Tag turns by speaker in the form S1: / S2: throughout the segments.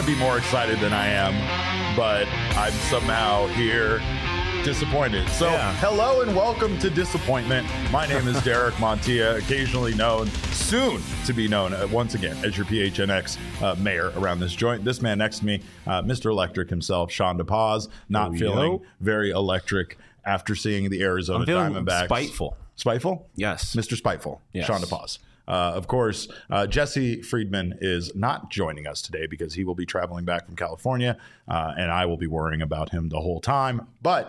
S1: to be more excited than I am, but I'm somehow here disappointed. So Hello and welcome to Disappointment. My name is Derek Montilla, occasionally known, soon to be known once again as your PHNX mayor around this joint. This man next to me, Mr. Electric himself, Sean DePaz, not feeling very electric after seeing the Arizona Diamondbacks.
S2: Spiteful.
S1: Spiteful?
S2: Yes.
S1: Mr. Spiteful,
S2: yes.
S1: Sean DePaz. Of course, Jesse Friedman is not joining us today because he will be traveling back from California, and I will be worrying about him the whole time. But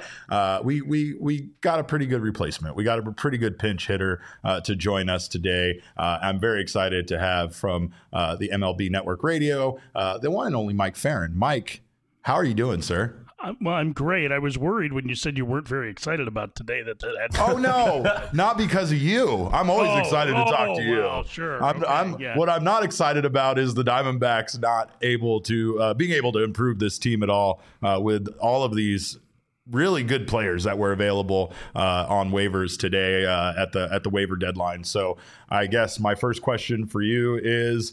S1: we got a pretty good replacement. We got a pretty good pinch hitter to join us today. I'm very excited to have from the MLB Network Radio, the one and only Mike Farron. Mike, how are you doing, sir?
S3: Well, I'm great. I was worried when you said you weren't very excited about today. That
S1: Oh no, not because of you. I'm always excited to talk to you.
S3: Well, sure.
S1: What I'm not excited about is the Diamondbacks not able to being able to improve this team at all with all of these really good players that were available on waivers today at the waiver deadline. So I guess my first question for you is,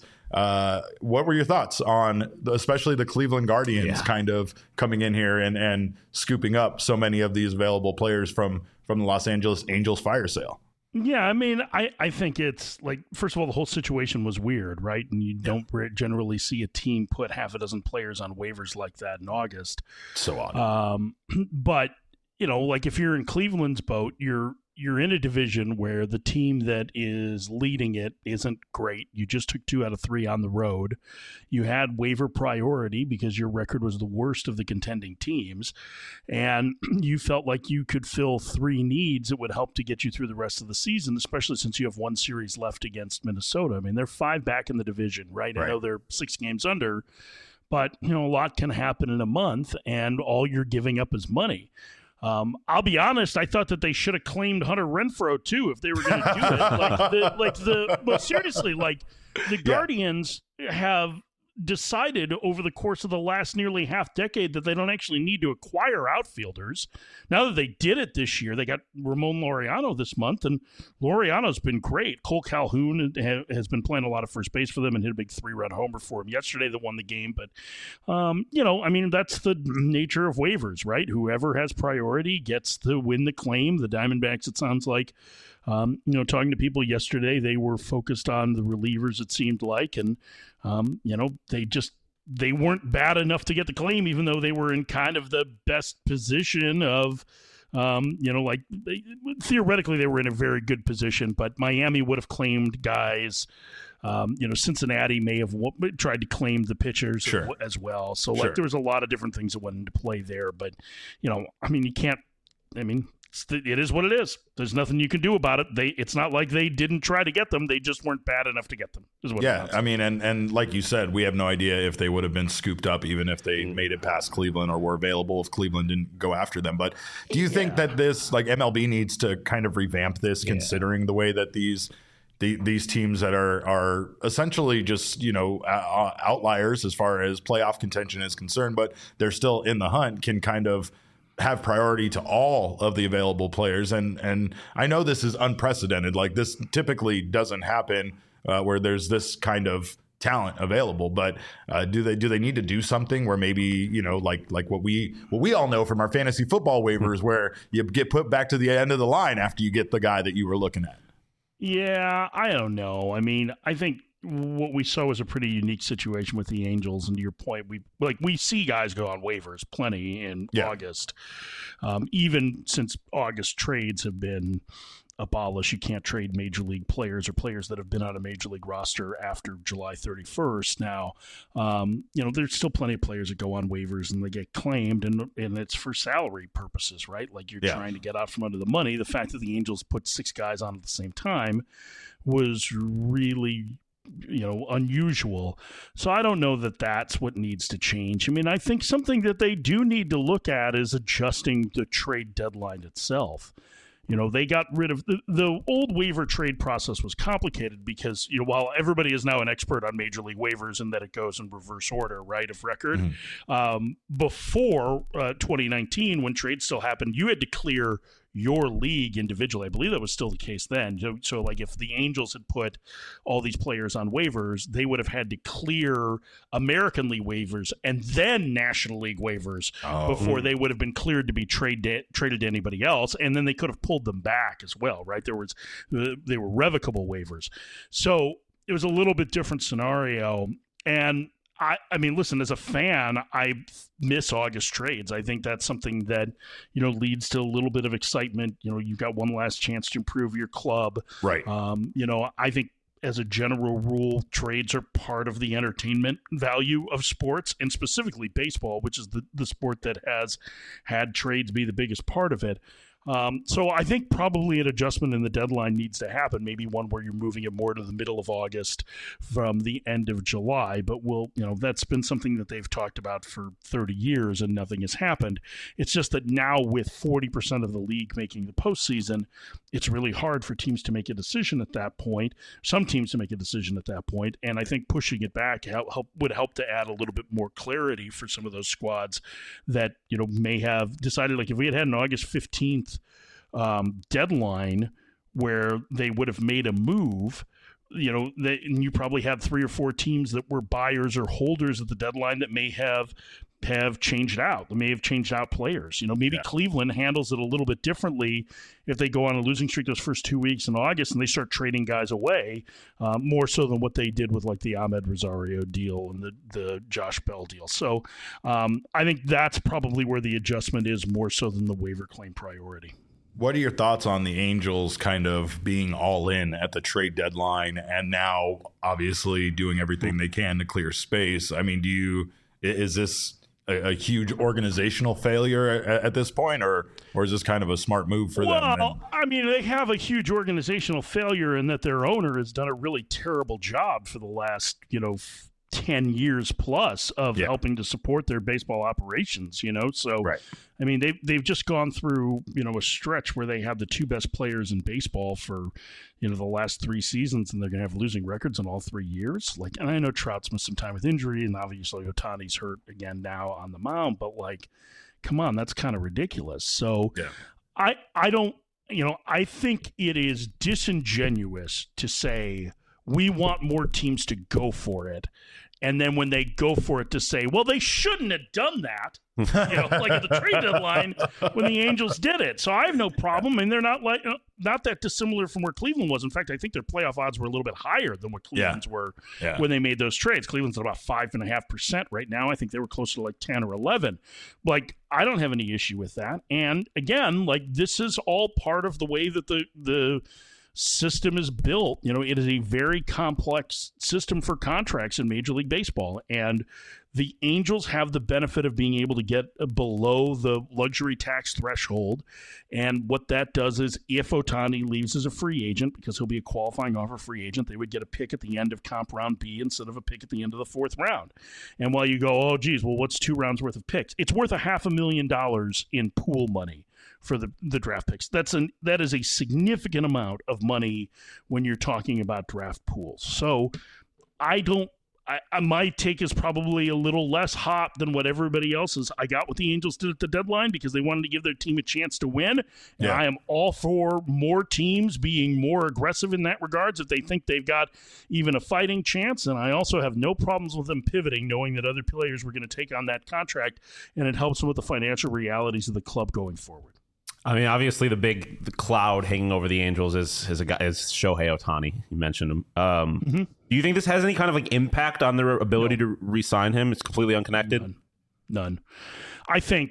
S1: what were your thoughts on especially the Cleveland Guardians kind of coming in here and scooping up so many of these available players from the Los Angeles Angels fire sale?
S3: Yeah, I mean, I think it's like, first of all, the whole situation was weird, right? And you don't generally see a team put half a dozen players on waivers like that in August.
S1: So odd.
S3: But, you know, like if you're in Cleveland's boat, you're in a division where the team that is leading it isn't great. You just took 2 out of 3 on the road. You had waiver priority because your record was the worst of the contending teams. And you felt like you could fill 3 needs that would help to get you through the rest of the season, especially since you have 1 series left against Minnesota. I mean, they're 5 back in the division, right? I know they're 6 games under, but, you know, a lot can happen in a month, and all you're giving up is money. I'll be honest, I thought that they should have claimed Hunter Renfroe too if they were going to do it. But seriously, like the Guardians have decided over the course of the last nearly half decade that they don't actually need to acquire outfielders. Now that they did it this year, they got Ramon Laureano this month, and Laureano's been great. Cole Calhoun has been playing a lot of first base for them and hit a big 3-run homer for him yesterday that won the game. But, you know, I mean, that's the nature of waivers, right? Whoever has priority gets to win the claim. The Diamondbacks, it sounds like, you know, talking to people yesterday, they were focused on the relievers, it seemed like, and you know, they weren't bad enough to get the claim, even though they were in kind of the best position of, you know, like theoretically they were in a very good position, but Miami would have claimed guys. You know, Cincinnati may have tried to claim the pitchers as well. So like there was a lot of different things that went into play there, but you know, I mean, it is what it is. There's nothing you can do about it. It's not like they didn't try to get them. They just weren't bad enough to get them.
S1: I mean, and like you said, we have no idea if they would have been scooped up even if they made it past Cleveland or were available if Cleveland didn't go after them. But do you think that this, like MLB needs to kind of revamp this considering the way that these teams that are essentially just, you know, outliers as far as playoff contention is concerned, but they're still in the hunt, can kind of have priority to all of the available players. And I know this is unprecedented. Like this typically doesn't happen where there's this kind of talent available, but do they need to do something where maybe, you know, like what we all know from our fantasy football waivers where you get put back to the end of the line after you get the guy that you were looking at?
S3: Yeah, I don't know. I mean, I think what we saw was a pretty unique situation with the Angels, and to your point, we see guys go on waivers plenty in August. Even since August trades have been abolished, you can't trade major league players or players that have been on a major league roster after July 31st. Now, you know, there's still plenty of players that go on waivers and they get claimed, and it's for salary purposes, right? Like you're trying to get out from under the money. The fact that the Angels put 6 guys on at the same time was really, you know, unusual. So I don't know that that's what needs to change. I mean, I think something that they do need to look at is adjusting the trade deadline itself. You know, they got rid of the old waiver trade process was complicated because, you know, while everybody is now an expert on major league waivers and that it goes in reverse order, right, of record, before 2019, when trades still happened, you had to clear your league individually. I believe that was still the case then. So like if the Angels had put all these players on waivers, they would have had to clear American League waivers and then National League waivers before they would have been cleared to be traded to anybody else. And then they could have pulled them back as well, right? They were revocable waivers. So it was a little bit different scenario. And I mean, listen, as a fan, I miss August trades. I think that's something that, leads to a little bit of excitement. You've got one last chance to improve your club.
S1: Right.
S3: I think as a general rule, trades are part of the entertainment value of sports, and specifically baseball, which is the sport that has had trades be the biggest part of it. So I think probably an adjustment in the deadline needs to happen, maybe one where you're moving it more to the middle of August from the end of July. But that's been something that they've talked about for 30 years and nothing has happened. It's just that now with 40% of the league making the postseason, it's really hard for teams to make a decision at that point, some teams to make a decision at that point. And I think pushing it back would help to add a little bit more clarity for some of those squads that, may have decided, like if we had an August 15th deadline where they would have made a move, and you probably had 3 or 4 teams that were buyers or holders at the deadline that may have changed out. They may have changed out players. Maybe Cleveland handles it a little bit differently if they go on a losing streak those first 2 weeks in August and they start trading guys away, more so than what they did with like the Ahmed Rosario deal and the Josh Bell deal. So I think that's probably where the adjustment is more so than the waiver claim priority.
S1: What are your thoughts on the Angels kind of being all in at the trade deadline and now obviously doing everything they can to clear space? I mean, is this a huge organizational failure at this point, or is this kind of a smart move for them?
S3: Well, I mean, they have a huge organizational failure in that their owner has done a really terrible job for the last, 10 years plus of helping to support their baseball operations, So,
S1: right.
S3: I mean, they've just gone through, a stretch where they have the 2 best players in baseball for, the last 3 seasons, and they're going to have losing records in all 3 years. Like, and I know Trout's missed some time with injury, and obviously Ohtani's hurt again now on the mound, but like, come on, that's kind of ridiculous. So I don't, I think it is disingenuous to say we want more teams to go for it. And then when they go for it to say, well, they shouldn't have done that, like at the trade deadline when the Angels did it. So I have no problem. And they're not not that dissimilar from where Cleveland was. In fact, I think their playoff odds were a little bit higher than what Cleveland's were when they made those trades. Cleveland's at about 5.5% right now. I think they were closer to like 10 or 11. Like, I don't have any issue with that. And again, like, this is all part of the way that the system is built. It is a very complex system for contracts in Major League Baseball, and the Angels have the benefit of being able to get below the luxury tax threshold. And what that does is if Ohtani leaves as a free agent, because he'll be a qualifying offer free agent, they would get a pick at the end of comp round B instead of a pick at the end of the 4th round. And while you go, oh geez, well, what's 2 rounds worth of picks? It's worth $500,000 in pool money for the draft picks. That is a significant amount of money when you're talking about draft pools. So my take is probably a little less hot than what everybody else is. I got what the Angels did at the deadline because they wanted to give their team a chance to win. And I am all for more teams being more aggressive in that regards if they think they've got even a fighting chance. And I also have no problems with them pivoting, knowing that other players were going to take on that contract, and it helps them with the financial realities of the club going forward.
S2: I mean, obviously the cloud hanging over the Angels is Shohei Ohtani. You mentioned him. Do you think this has any kind of like impact on their ability to re-sign him? It's completely unconnected.
S3: None. I think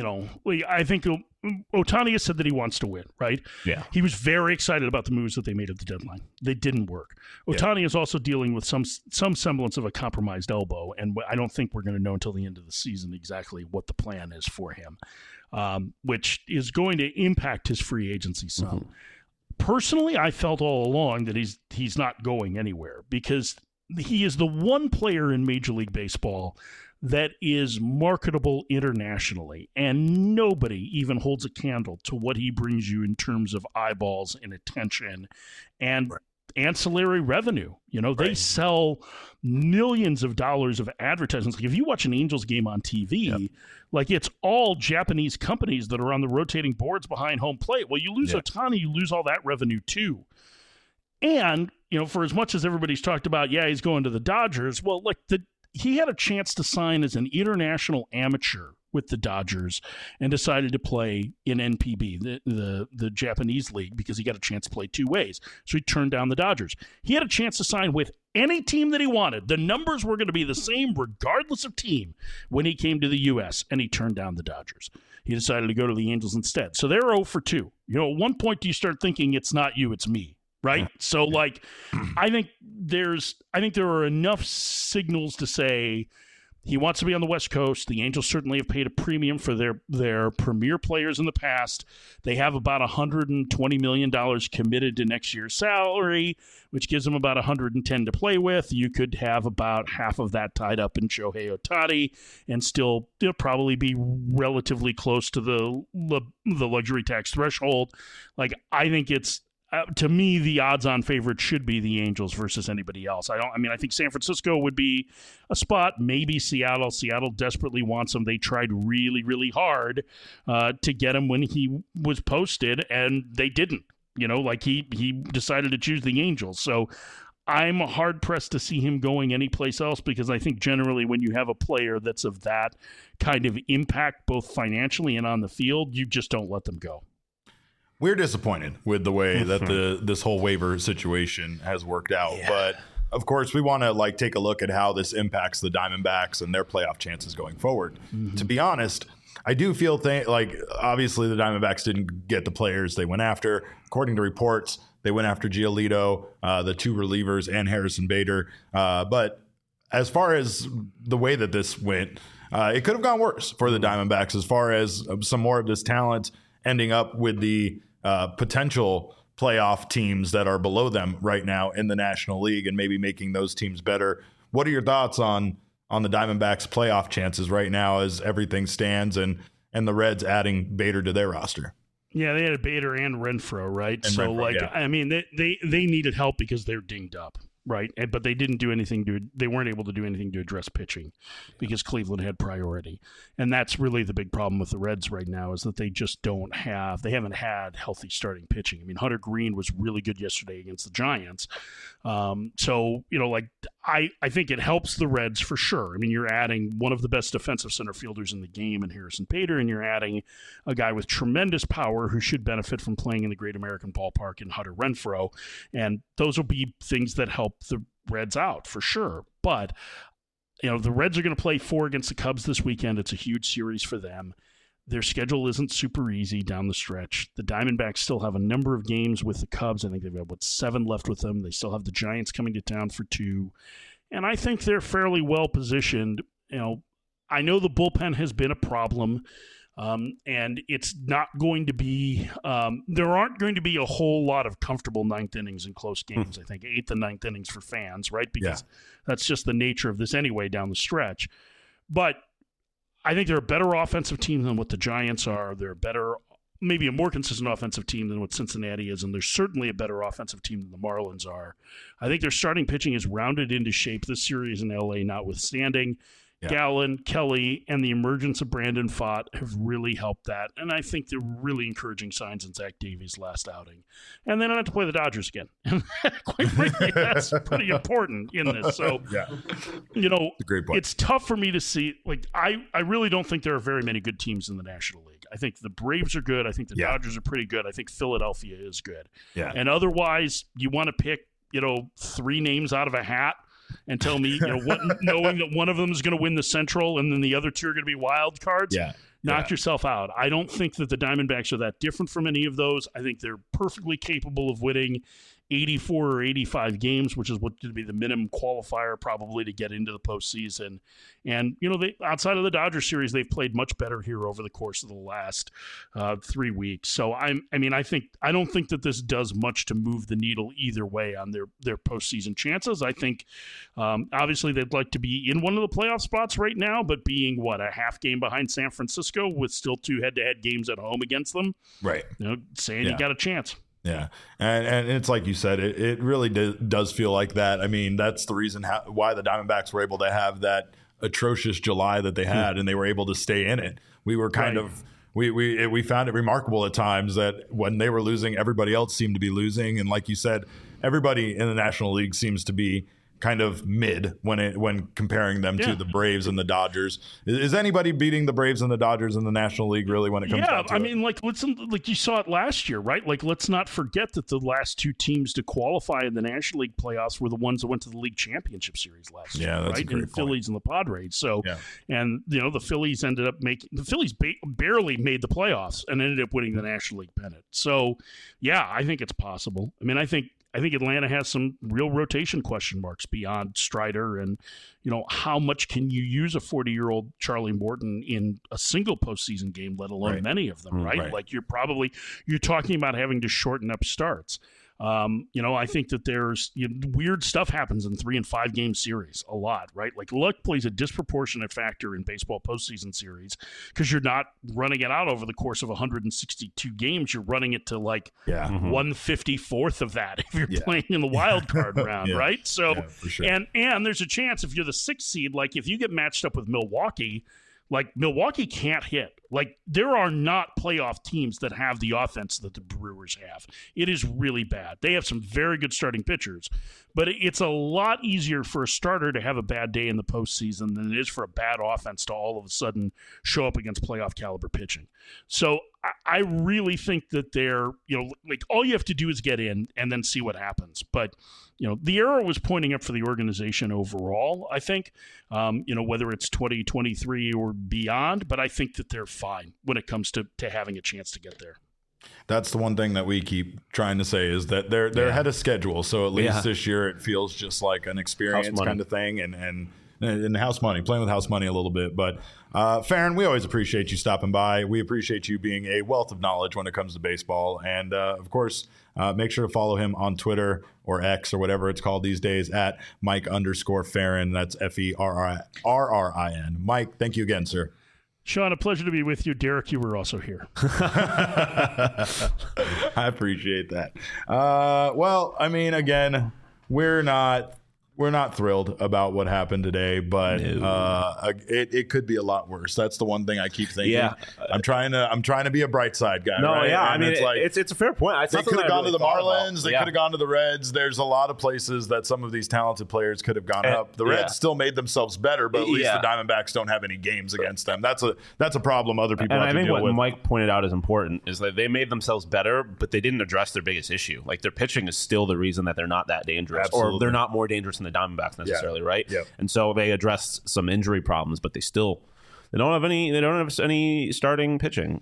S3: Ohtani has said that he wants to win, right?
S2: Yeah.
S3: He was very excited about the moves that they made at the deadline. They didn't work. Ohtani is also dealing with some semblance of a compromised elbow, and I don't think we're going to know until the end of the season exactly what the plan is for him, which is going to impact his free agency some. Mm-hmm. Personally, I felt all along that he's not going anywhere because he is the one player in Major League Baseball that is marketable internationally, and nobody even holds a candle to what he brings you in terms of eyeballs and attention. And ancillary revenue. They sell millions of dollars of advertisements. Like if you watch an Angels game on TV, like it's all Japanese companies that are on the rotating boards behind home plate. Well, you lose Ohtani, you lose all that revenue too. And, for as much as everybody's talked about, he's going to the Dodgers. Well, like he had a chance to sign as an international amateur with the Dodgers and decided to play in NPB, the Japanese league, because he got a chance to play two ways. So he turned down the Dodgers. He had a chance to sign with any team that he wanted. The numbers were going to be the same regardless of team when he came to the U.S., and he turned down the Dodgers. He decided to go to the Angels instead. So they're 0 for 2. At one point do you start thinking it's not you, it's me. Right. So like, I think there are enough signals to say he wants to be on the West Coast. The Angels certainly have paid a premium for their premier players in the past. They have about $120 million committed to next year's salary, which gives them about $110 to play with. You could have about half of that tied up in Shohei Ohtani and still probably be relatively close to the luxury tax threshold. Like, I think it's, to me, the odds-on favorite should be the Angels versus anybody else. I think San Francisco would be a spot. Maybe Seattle. Seattle desperately wants him. They tried really, really hard to get him when he was posted, and they didn't. He decided to choose the Angels. So I'm hard-pressed to see him going anyplace else, because I think generally when you have a player that's of that kind of impact, both financially and on the field, you just don't let them go.
S1: We're disappointed with the way that this whole waiver situation has worked out. Yeah. But, of course, we want to take a look at how this impacts the Diamondbacks and their playoff chances going forward. Mm-hmm. To be honest, I do feel obviously the Diamondbacks didn't get the players they went after. According to reports, they went after Giolito, the two relievers, and Harrison Bader. But as far as the way that this went, it could have gone worse for the Diamondbacks as far as some more of this talent ending up with the potential playoff teams that are below them right now in the National League and maybe making those teams better. What are your thoughts on the Diamondbacks' playoff chances right now as everything stands and the Reds adding Bader to their roster?
S3: Yeah, they had Bader and Renfroe, right?
S1: And
S3: so,
S1: Renfroe,
S3: they needed help because they're dinged up. Right, but they didn't do anything they weren't able to do anything to address pitching because Cleveland had priority. And that's really the big problem with the Reds right now, is that they just they haven't had healthy starting pitching. I mean, Hunter Green was really good yesterday against the Giants. I think it helps the Reds for sure. I mean, you're adding one of the best defensive center fielders in the game in Harrison Bader, and you're adding a guy with tremendous power who should benefit from playing in the Great American Ballpark in Hunter Renfroe. And those will be things that help the Reds out for sure. But, the Reds are going to play 4 against the Cubs this weekend. It's a huge series for them. Their schedule isn't super easy down the stretch. The Diamondbacks still have a number of games with the Cubs. I think they've got, 7 left with them. They still have the Giants coming to town for 2. And I think they're fairly well positioned. I know the bullpen has been a problem, and it's not going to be there aren't going to be a whole lot of comfortable 9th innings in close games. I think 8th and 9th innings for fans, right? Because that's just the nature of this anyway down the stretch. But I think they're a better offensive team than what the Giants are. They're maybe a more consistent offensive team than what Cincinnati is, and they're certainly a better offensive team than the Marlins are. I think their starting pitching is rounded into shape this series in LA notwithstanding. Yeah. Gallen, Kelly, and the emergence of Brandon Pfaadt have really helped that. And I think they're really encouraging signs in Zach Davies' last outing. And they don't have to play the Dodgers again. Quite frankly, that's pretty important in this. So,
S1: great point.
S3: It's tough for me to see. I really don't think there are very many good teams in the National League. I think the Braves are good. I think the Dodgers are pretty good. I think Philadelphia is good.
S1: Yeah.
S3: And otherwise, you want to pick, 3 names out of a hat and tell me, knowing that one of them is going to win the Central and then the other 2 are going to be wild cards, knock yourself out. I don't think that the Diamondbacks are that different from any of those. I think they're perfectly capable of winning 84 or 85 games, which is what would be the minimum qualifier probably to get into the postseason. And, they outside of the Dodgers series, they've played much better here over the course of the last 3 weeks. So, I don't think that this does much to move the needle either way on their postseason chances. I think, obviously, they'd like to be in one of the playoff spots right now, but being, a half game behind San Francisco with still 2 head-to-head games at home against them,
S1: right?
S3: Saying you got a chance.
S1: Yeah, and it's like you said, it really does feel like that. I mean, that's the reason why the Diamondbacks were able to have that atrocious July that they had, and they were able to stay in it. We were kind of we found it remarkable at times that when they were losing, everybody else seemed to be losing, and like you said, everybody in the National League seems to be kind of mid when comparing them to the Braves and the Dodgers. Is anybody beating the Braves and the Dodgers in the National League really when it comes down to it?
S3: mean, like you saw it last year, right? Like, let's not forget that the last two teams to qualify in the National League playoffs were the ones that went to the League Championship Series last year,
S1: that's
S3: right?
S1: a great
S3: And the Phillies and the Padres. So,
S1: Yeah.
S3: and the Phillies ended up barely made the playoffs and ended up winning the National League pennant. So, yeah, I think it's possible. I mean, I think Atlanta has some real rotation question marks beyond Strider, and how much can you use a 40-year-old Charlie Morton in a single postseason game, let alone many of them, right? Like you're talking about having to shorten up starts. I think that there's weird stuff happens in 3 and 5 game series a lot, right? Like luck plays a disproportionate factor in baseball postseason series because you're not running it out over the course of 162 games. You're running it to like 154th of that if you're playing in the wild card round, right? So,
S1: for sure.
S3: and there's a chance if you're the 6th seed, like if you get matched up with Milwaukee, like Milwaukee can't hit. Like there are not playoff teams that have the offense that the Brewers have. It is really bad. They have some very good starting pitchers, but it's a lot easier for a starter to have a bad day in the postseason than it is for a bad offense to all of a sudden show up against playoff caliber pitching. So I really think that they're, like all you have to do is get in and then see what happens. But the arrow was pointing up for the organization overall, I think, whether it's 2023 or beyond, but I think that they're fine when it comes to having a chance to get there.
S1: That's the one thing that we keep trying to say is that they're ahead of schedule. So at least this year it feels just like an experience kind of thing and house money, playing with house money a little bit. But Farron, we always appreciate you stopping by. We appreciate you being a wealth of knowledge when it comes to baseball. And of course, make sure to follow him on Twitter or X or whatever it's called these days at Mike_Farron. That's FERRRIN. Mike, thank you again, sir.
S3: Sean, a pleasure to be with you. Derek, you were also here.
S1: I appreciate that. Well, I mean, again, we're not thrilled about what happened today, but it could be a lot worse. That's the one thing I keep thinking. Yeah. I'm trying to be a bright side guy.
S2: No,
S1: right?
S2: yeah,
S1: and
S2: I mean, it's a fair point.
S1: They could have gone to the Marlins. They could have gone to the Reds. There's a lot of places that some of these talented players could have gone up. The Reds still made themselves better, but at least the Diamondbacks don't have any games against them. That's a problem other people have to deal with.
S2: And I think what Mike pointed out is important is that they made themselves better, but they didn't address their biggest issue. Like their pitching is still the reason that they're not that dangerous, or they're not more dangerous than the Diamondbacks necessarily. Right.
S1: Yep.
S2: And so they addressed some injury problems, but they don't have any starting pitching.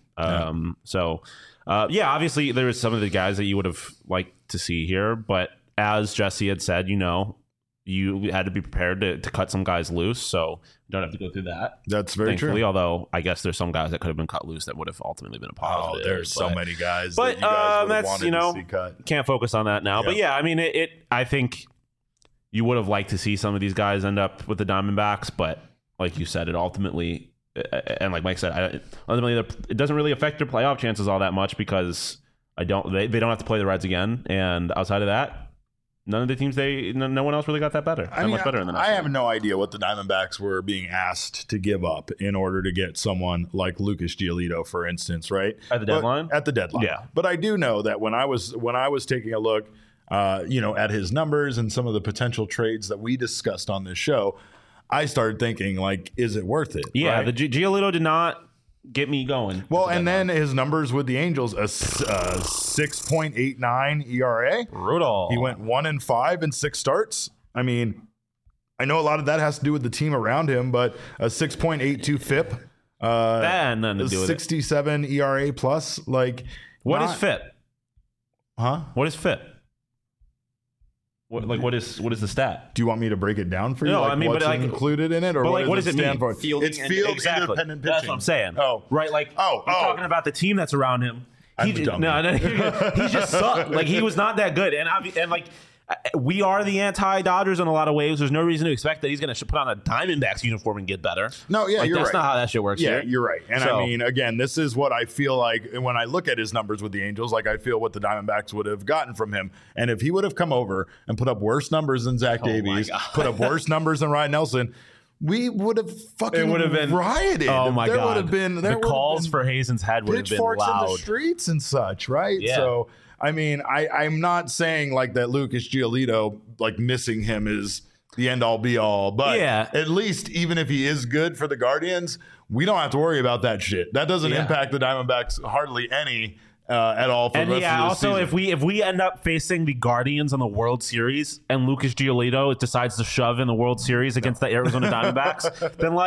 S2: Obviously there was some of the guys that you would have liked to see here, but as Jesse had said, you had to be prepared to cut some guys loose, so you don't have to go through that.
S1: That's very true.
S2: Although I guess there's some guys that could have been cut loose that would have ultimately been a positive.
S1: Oh, there's so many guys that you guys would have wanted to see cut.
S2: Can't focus on that now. Yeah. But yeah, I mean, I think you would have liked to see some of these guys end up with the Diamondbacks, but like you said, it ultimately, and like Mike said, ultimately it doesn't really affect their playoff chances all that much because they don't have to play the Reds again, and outside of that, none of the teams no one else really got that better. Much better in the National League.
S1: I have no idea what the Diamondbacks were being asked to give up in order to get someone like Lucas Giolito, for instance, right?
S2: At the deadline?
S1: At the deadline. Yeah. But I do know that when I was taking a look at his numbers and some of the potential trades that we discussed on this show, I started thinking, like, is it worth it?
S2: Yeah,
S1: right?
S2: the Giolito did not get me going.
S1: Well, and then his numbers with the Angels, a 6.89 ERA.
S2: Brutal.
S1: He went 1-5 in 6 starts. I mean, I know a lot of that has to do with the team around him, but a 6.82 FIP.
S2: That had nothing to do with
S1: 67 ERA plus. Like,
S2: what is FIP?
S1: Huh?
S2: What is FIP? What is the stat?
S1: Do you want me to break it down for you?
S2: No,
S1: like
S2: I mean,
S1: what's included in it, or
S2: what does it
S1: stand
S2: mean?
S1: for? It's field independent pitching.
S2: That's what I'm saying.
S1: Oh,
S2: right. Like, you're talking about the team that's around him.
S1: He just
S2: sucked. Like he was not that good, and like we are the anti-Dodgers in a lot of ways. There's no reason to expect that he's going to put on a Diamondbacks uniform and get better.
S1: No, yeah, you're
S2: that's
S1: right.
S2: not how that shit works.
S1: Yeah,
S2: here.
S1: you're right. And I mean, again, this is what I feel like when I look at his numbers with the Angels, like I feel what the Diamondbacks would have gotten from him. And if he would have come over and put up worse numbers than Zach Davies, put up worse numbers than Ryan Nelson, we would have fucking rioted.
S2: Oh my God.
S1: Would have been,
S2: the calls for Hazen's head would have been loud.
S1: Pitchforks in the streets and such, right?
S2: Yeah.
S1: So, I mean, I'm not saying like that Lucas Giolito, like missing him is the end all be all, but at least even if he is good for the Guardians, we don't have to worry about that shit. That doesn't impact the Diamondbacks hardly any at all for the rest of the season.
S2: if we end up facing the Guardians in the World Series and Lucas Giolito decides to shove in the World Series against the Arizona Diamondbacks, then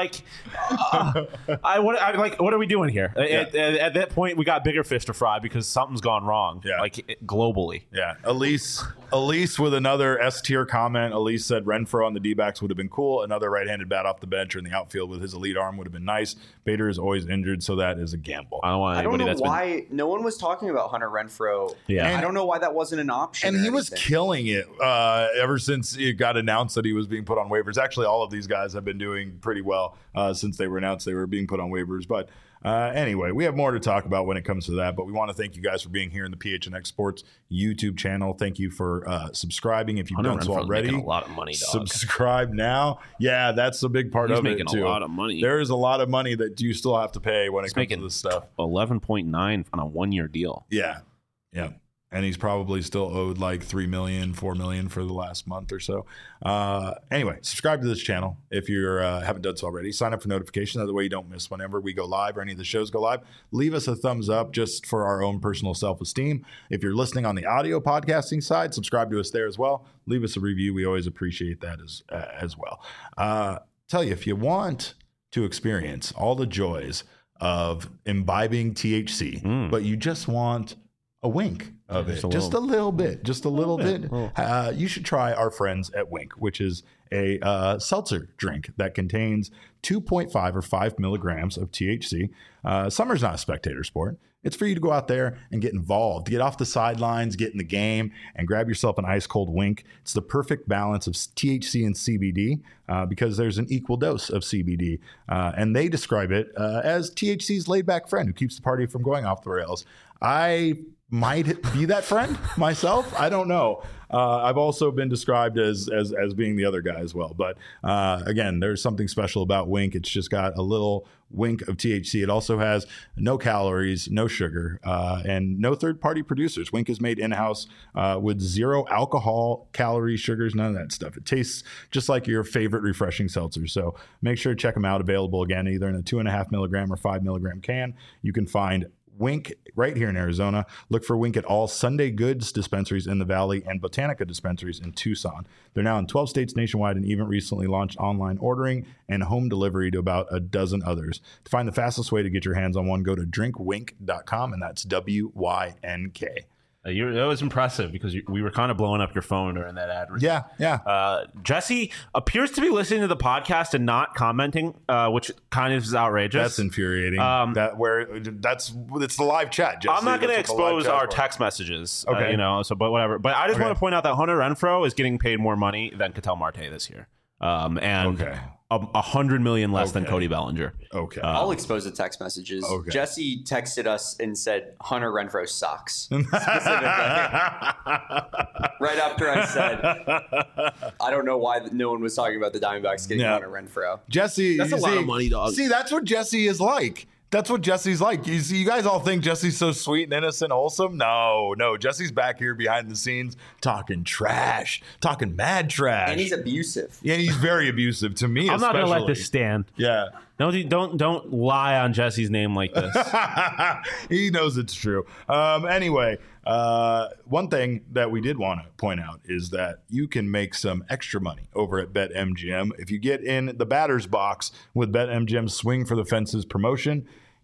S2: what are we doing here? At that point, we got bigger fish to fry because something's gone wrong.
S1: Yeah.
S2: Like globally.
S1: Yeah. Elise with another S tier comment. Elise said Renfroe on the D-backs would have been cool. Another right-handed bat off the bench or in the outfield with his elite arm would have been nice. Bader is always injured, so that is a gamble.
S4: I don't know why no one was talking about Hunter Renfroe.
S2: Yeah.
S4: I don't know why that wasn't an option.
S1: And he was killing it ever since it got announced that he was being put on waivers. Actually, all of these guys have been doing pretty well since they were announced they were being put on waivers. But anyway, we have more to talk about when it comes to that. But we want to thank you guys for being here in the PHNX Sports YouTube channel. Thank you for subscribing. If you've done so already,
S2: making a lot of money, dog.
S1: Subscribe now. Yeah, that's a big part of it too.
S2: He's making a lot of money.
S1: There is a lot of money that you still have to pay when it comes to this stuff.
S2: 11.9 on a 1-year deal.
S1: Yeah. And he's probably still owed like $3 million, $4 million for the last month or so. Anyway, subscribe to this channel if you haven't done so already. Sign up for notifications. That way you don't miss whenever we go live or any of the shows go live. Leave us a thumbs up just for our own personal self-esteem. If you're listening on the audio podcasting side, subscribe to us there as well. Leave us a review. We always appreciate that as well. Tell you, if you want to experience all the joys of imbibing THC, but you just want a wink of it, just a little bit, you should try our friends at Wink, which is a seltzer drink that contains 2.5 or 5 milligrams of THC. Summer's not a spectator sport. It's for you to go out there and get involved, get off the sidelines, get in the game, and grab yourself an ice cold Wink. It's the perfect balance of THC and CBD because there's an equal dose of CBD. And they describe it as THC's laid back friend who keeps the party from going off the rails. I might be that friend myself. I don't know. I've also been described as being the other guy as well. But again, there's something special about Wink. It's just got a little wink of THC. It also has no calories, no sugar, and no third-party producers. Wink is made in-house with 0 alcohol, calories, sugars, none of that stuff. It tastes just like your favorite refreshing seltzer. So make sure to check them out. Available again, either in a 2.5 milligram or 5 milligram can. You can find Wink right here in Arizona. Look for Wink at all Sunday Goods dispensaries in the Valley and Botanica dispensaries in Tucson. They're now in 12 states nationwide and even recently launched online ordering and home delivery to about a dozen others. To find the fastest way to get your hands on one, go to drinkwink.com, and that's WYNK.
S2: That was impressive because we were kind of blowing up your phone during that ad.
S1: Yeah.
S2: Jesse appears to be listening to the podcast and not commenting, which kind of is outrageous.
S1: That's infuriating. It's the live chat, Jesse.
S2: I'm not going to expose our text messages,
S1: okay.
S2: But whatever. But I just want to point out that Hunter Renfroe is getting paid more money than Ketel Marte this year. And $100 million less than Cody Bellinger.
S1: Okay.
S4: I'll expose the text messages. Okay. Jesse texted us and said Hunter Renfroe sucks. Specifically. Right after I said, I don't know why no one was talking about the Diamondbacks getting Hunter Renfroe.
S1: Jesse,
S2: that's a lot of money, dog.
S1: See, that's what Jesse is like. That's what Jesse's like. You guys all think Jesse's so sweet and innocent, wholesome. No. Jesse's back here behind the scenes talking trash, talking mad trash.
S4: And he's abusive.
S1: Yeah, he's very abusive to me.
S2: I'm not going to let this stand.
S1: Yeah.
S2: No, don't lie on Jesse's name like this.
S1: He knows it's true. Anyway, one thing that we did want to point out is that you can make some extra money over at BetMGM. If you get in the batter's box with BetMGM's Swing for the Fences promotion,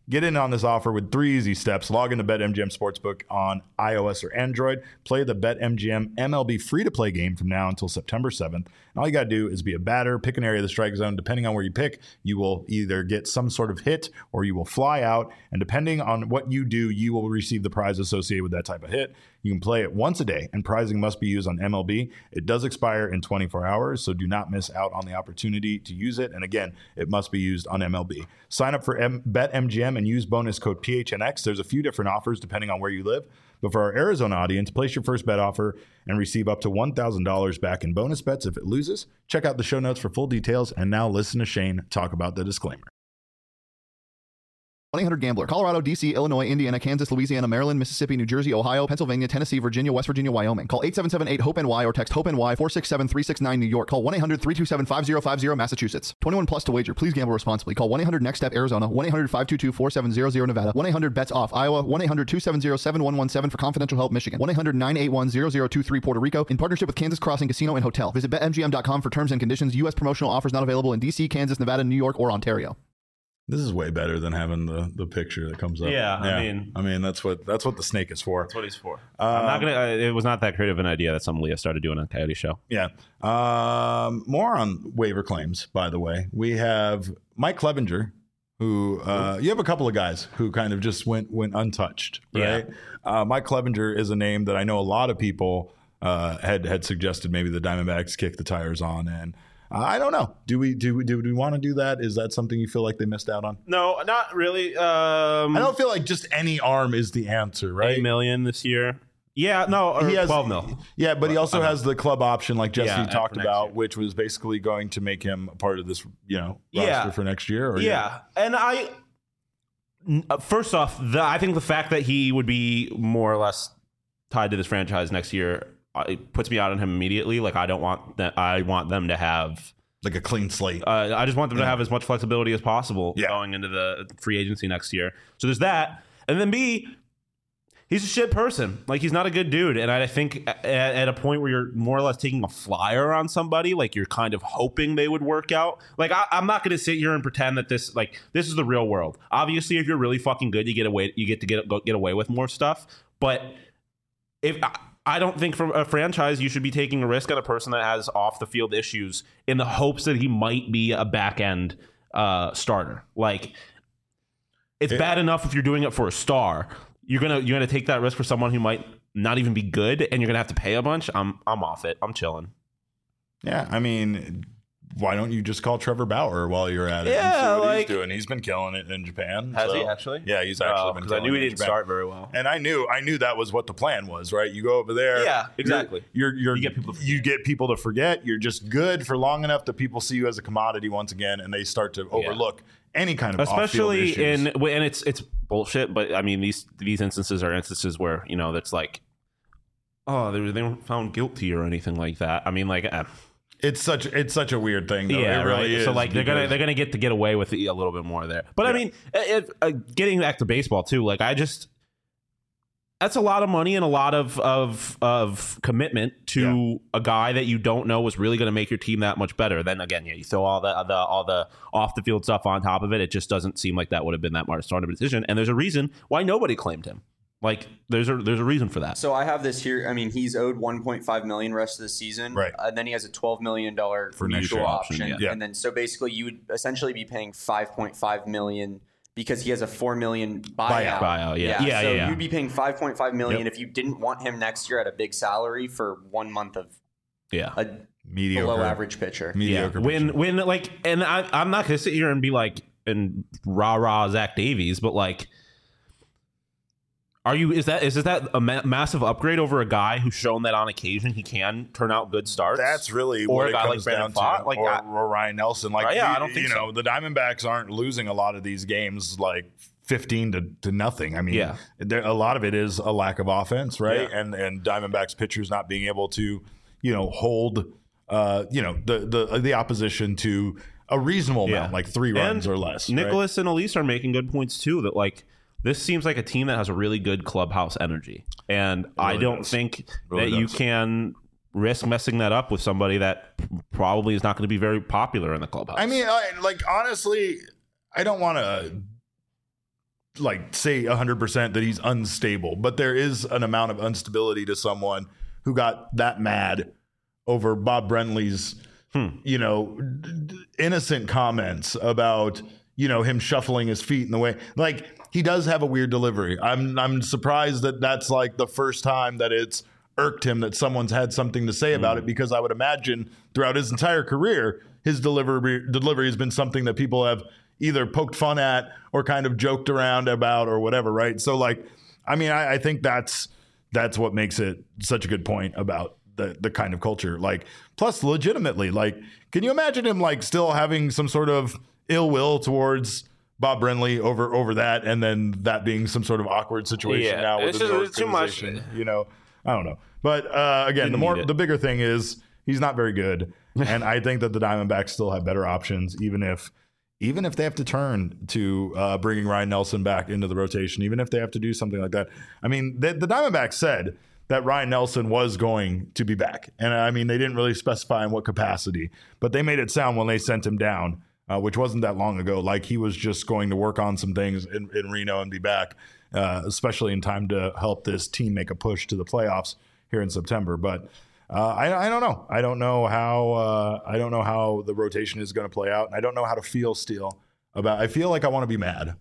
S1: Get in on this offer with 3 easy steps. Log into BetMGM Sportsbook on iOS or Android. Play the BetMGM MLB free-to-play game from now until September 7th. And all you got to do is be a batter, pick an area of the strike zone. Depending on where you pick, you will either get some sort of hit or you will fly out. And depending on what you do, you will receive the prize associated with that type of hit. You can play it once a day, and prizing must be used on MLB. It does expire in 24 hours, so do not miss out on the opportunity to use it. And again, it must be used on MLB. Sign up for BetMGM and use bonus code PHNX. There's a few different offers depending on where you live. But for our Arizona audience, place your first bet offer and receive up to $1,000 back in bonus bets if it loses. Check out the show notes for full details. And now listen to Shane talk about the disclaimer.
S5: 1-800-GAMBLER. Colorado, D.C., Illinois, Indiana, Kansas, Louisiana, Maryland, Mississippi, New Jersey, Ohio, Pennsylvania, Tennessee, Virginia, West Virginia, Wyoming. Call 877-8-HOPE-NY or text HOPE-NY 467-369 New York. Call 1-800-327-5050 Massachusetts. 21 plus to wager. Please gamble responsibly. Call 1-800-NEXT-STEP Arizona. 1-800-522-4700 Nevada. 1-800-BETS-OFF Iowa. 1-800-270-7117 for confidential help Michigan. 1-800-981-0023 Puerto Rico. In partnership with Kansas Crossing Casino and Hotel. Visit BetMGM.com for terms and conditions. U.S. promotional offers not available in D.C., Kansas, Nevada, New York, or Ontario.
S1: This is way better than having the picture that comes up.
S2: Yeah,
S1: I mean that's what the snake is for.
S2: That's what he's for. I'm not gonna. It was not that creative an idea that some Leah started doing on Coyote Show.
S1: Yeah. More on waiver claims. By the way, we have Mike Clevinger, who you have a couple of guys who kind of just went untouched. Right. Yeah. Mike Clevinger is a name that I know a lot of people had suggested maybe the Diamondbacks kick the tires on, and I don't know. Do we want to do that? Is that something you feel like they missed out on?
S2: No, not really.
S1: I don't feel like just any arm is the answer, right?
S2: $8 million this year. Yeah, no, or
S1: he has,
S2: 12 mil.
S1: Yeah, but he also has the club option, like Jesse talked about, which was basically going to make him a part of this, roster for next year. Or
S2: and first off, I think the fact that he would be more or less tied to this franchise next year, it puts me out on him immediately. Like I don't want that. I want them to have
S1: like a clean slate.
S2: I just want them to have as much flexibility as possible going into the free agency next year. So there's that, and then B, he's a shit person. Like he's not a good dude, and I think at a point where you're more or less taking a flyer on somebody, like you're kind of hoping they would work out. Like I'm not going to sit here and pretend that this is the real world. Obviously, if you're really fucking good, you get away with more stuff. But if I don't think for a franchise you should be taking a risk on a person that has off the field issues in the hopes that he might be a back end starter. Like it's bad enough if you're doing it for a star. You're gonna take that risk for someone who might not even be good, and you're gonna have to pay a bunch. I'm off it. I'm chilling.
S1: Yeah, I mean, why don't you just call Trevor Bauer while you're at it?
S2: Yeah,
S1: and see what he's doing. He's been killing it in Japan.
S2: Has he actually?
S1: Yeah, he's actually been.
S2: Because I knew he didn't start very well,
S1: and I knew that was what the plan was. Right, you go over there.
S2: Yeah, exactly.
S1: You get people to forget. You're just good for long enough that people see you as a commodity once again, and they start to overlook any kind of
S2: especially
S1: off-field issues.
S2: and it's bullshit. But I mean, these instances are instances where that's like, oh, they weren't found guilty or anything like that. I mean, like.
S1: It's such a weird thing, though.
S2: Yeah,
S1: it really is.
S2: So like they're gonna get away with it a little bit more there. But I mean, getting back to baseball too. Like that's a lot of money and a lot of commitment to a guy that you don't know was really going to make your team that much better. Then again, you throw all the off the field stuff on top of it. It just doesn't seem like that would have been that much smarter decision. And there's a reason why nobody claimed him. Like there's a reason for that.
S4: So I have this here. I mean, he's owed $1.5 million rest of the season,
S1: right?
S4: And then he has a $12 million
S1: for
S4: mutual option.
S1: Yeah.
S4: And then so basically, you would essentially be paying $5.5 million because he has a $4 million buyout.
S2: Yeah.
S4: So you'd be paying $5.5 million if you didn't want him next year at a big salary for 1 month of a
S1: mediocre,
S4: below average pitcher.
S1: Mediocre.
S2: When like, and I'm not gonna sit here and be like and rah Zach Davies, but like. Is that a massive upgrade over a guy who's shown that on occasion he can turn out good starts?
S1: That's really
S2: or
S1: what
S2: a guy
S1: it comes
S2: like
S1: down
S2: Fott,
S1: to.
S2: like
S1: or Ryan Nelson. Like
S2: I don't think so.
S1: The Diamondbacks aren't losing a lot of these games like 15 to nothing. I mean, a lot of it is a lack of offense, right? Yeah. And Diamondbacks pitchers not being able to, hold the opposition to a reasonable amount, like 3 runs or less.
S2: Nicholas and Elise are making good points too. That like. This seems like a team that has a really good clubhouse energy. And I don't think that you can risk messing that up with somebody that probably is not going to be very popular in the clubhouse.
S1: I mean, honestly, I don't want to like say 100% that he's unstable, but there is an amount of instability to someone who got that mad over Bob Brenly's, innocent comments about, him shuffling his feet in the way. Like, he does have a weird delivery. I'm surprised that that's like the first time that it's irked him that someone's had something to say about it, because I would imagine throughout his entire career, his delivery has been something that people have either poked fun at or kind of joked around about or whatever, right? So, like, I mean, I think that's what makes it such a good point about the kind of culture. Like, plus, legitimately, like, can you imagine him like still having some sort of ill will towards Bob Brenly over that, and then that being some sort of awkward situation now with the organization? Too much. I don't know. But again, the bigger thing is he's not very good, and I think that the Diamondbacks still have better options, even if they have to turn to bringing Ryan Nelson back into the rotation, even if they have to do something like that. I mean, the Diamondbacks said that Ryan Nelson was going to be back, and I mean, they didn't really specify in what capacity, but they made it sound when they sent him down, which wasn't that long ago, like he was just going to work on some things in Reno and be back, especially in time to help this team make a push to the playoffs here in September. But I don't know. I don't know how the rotation is going to play out. And I don't know how to feel still about. I feel like I want to be mad.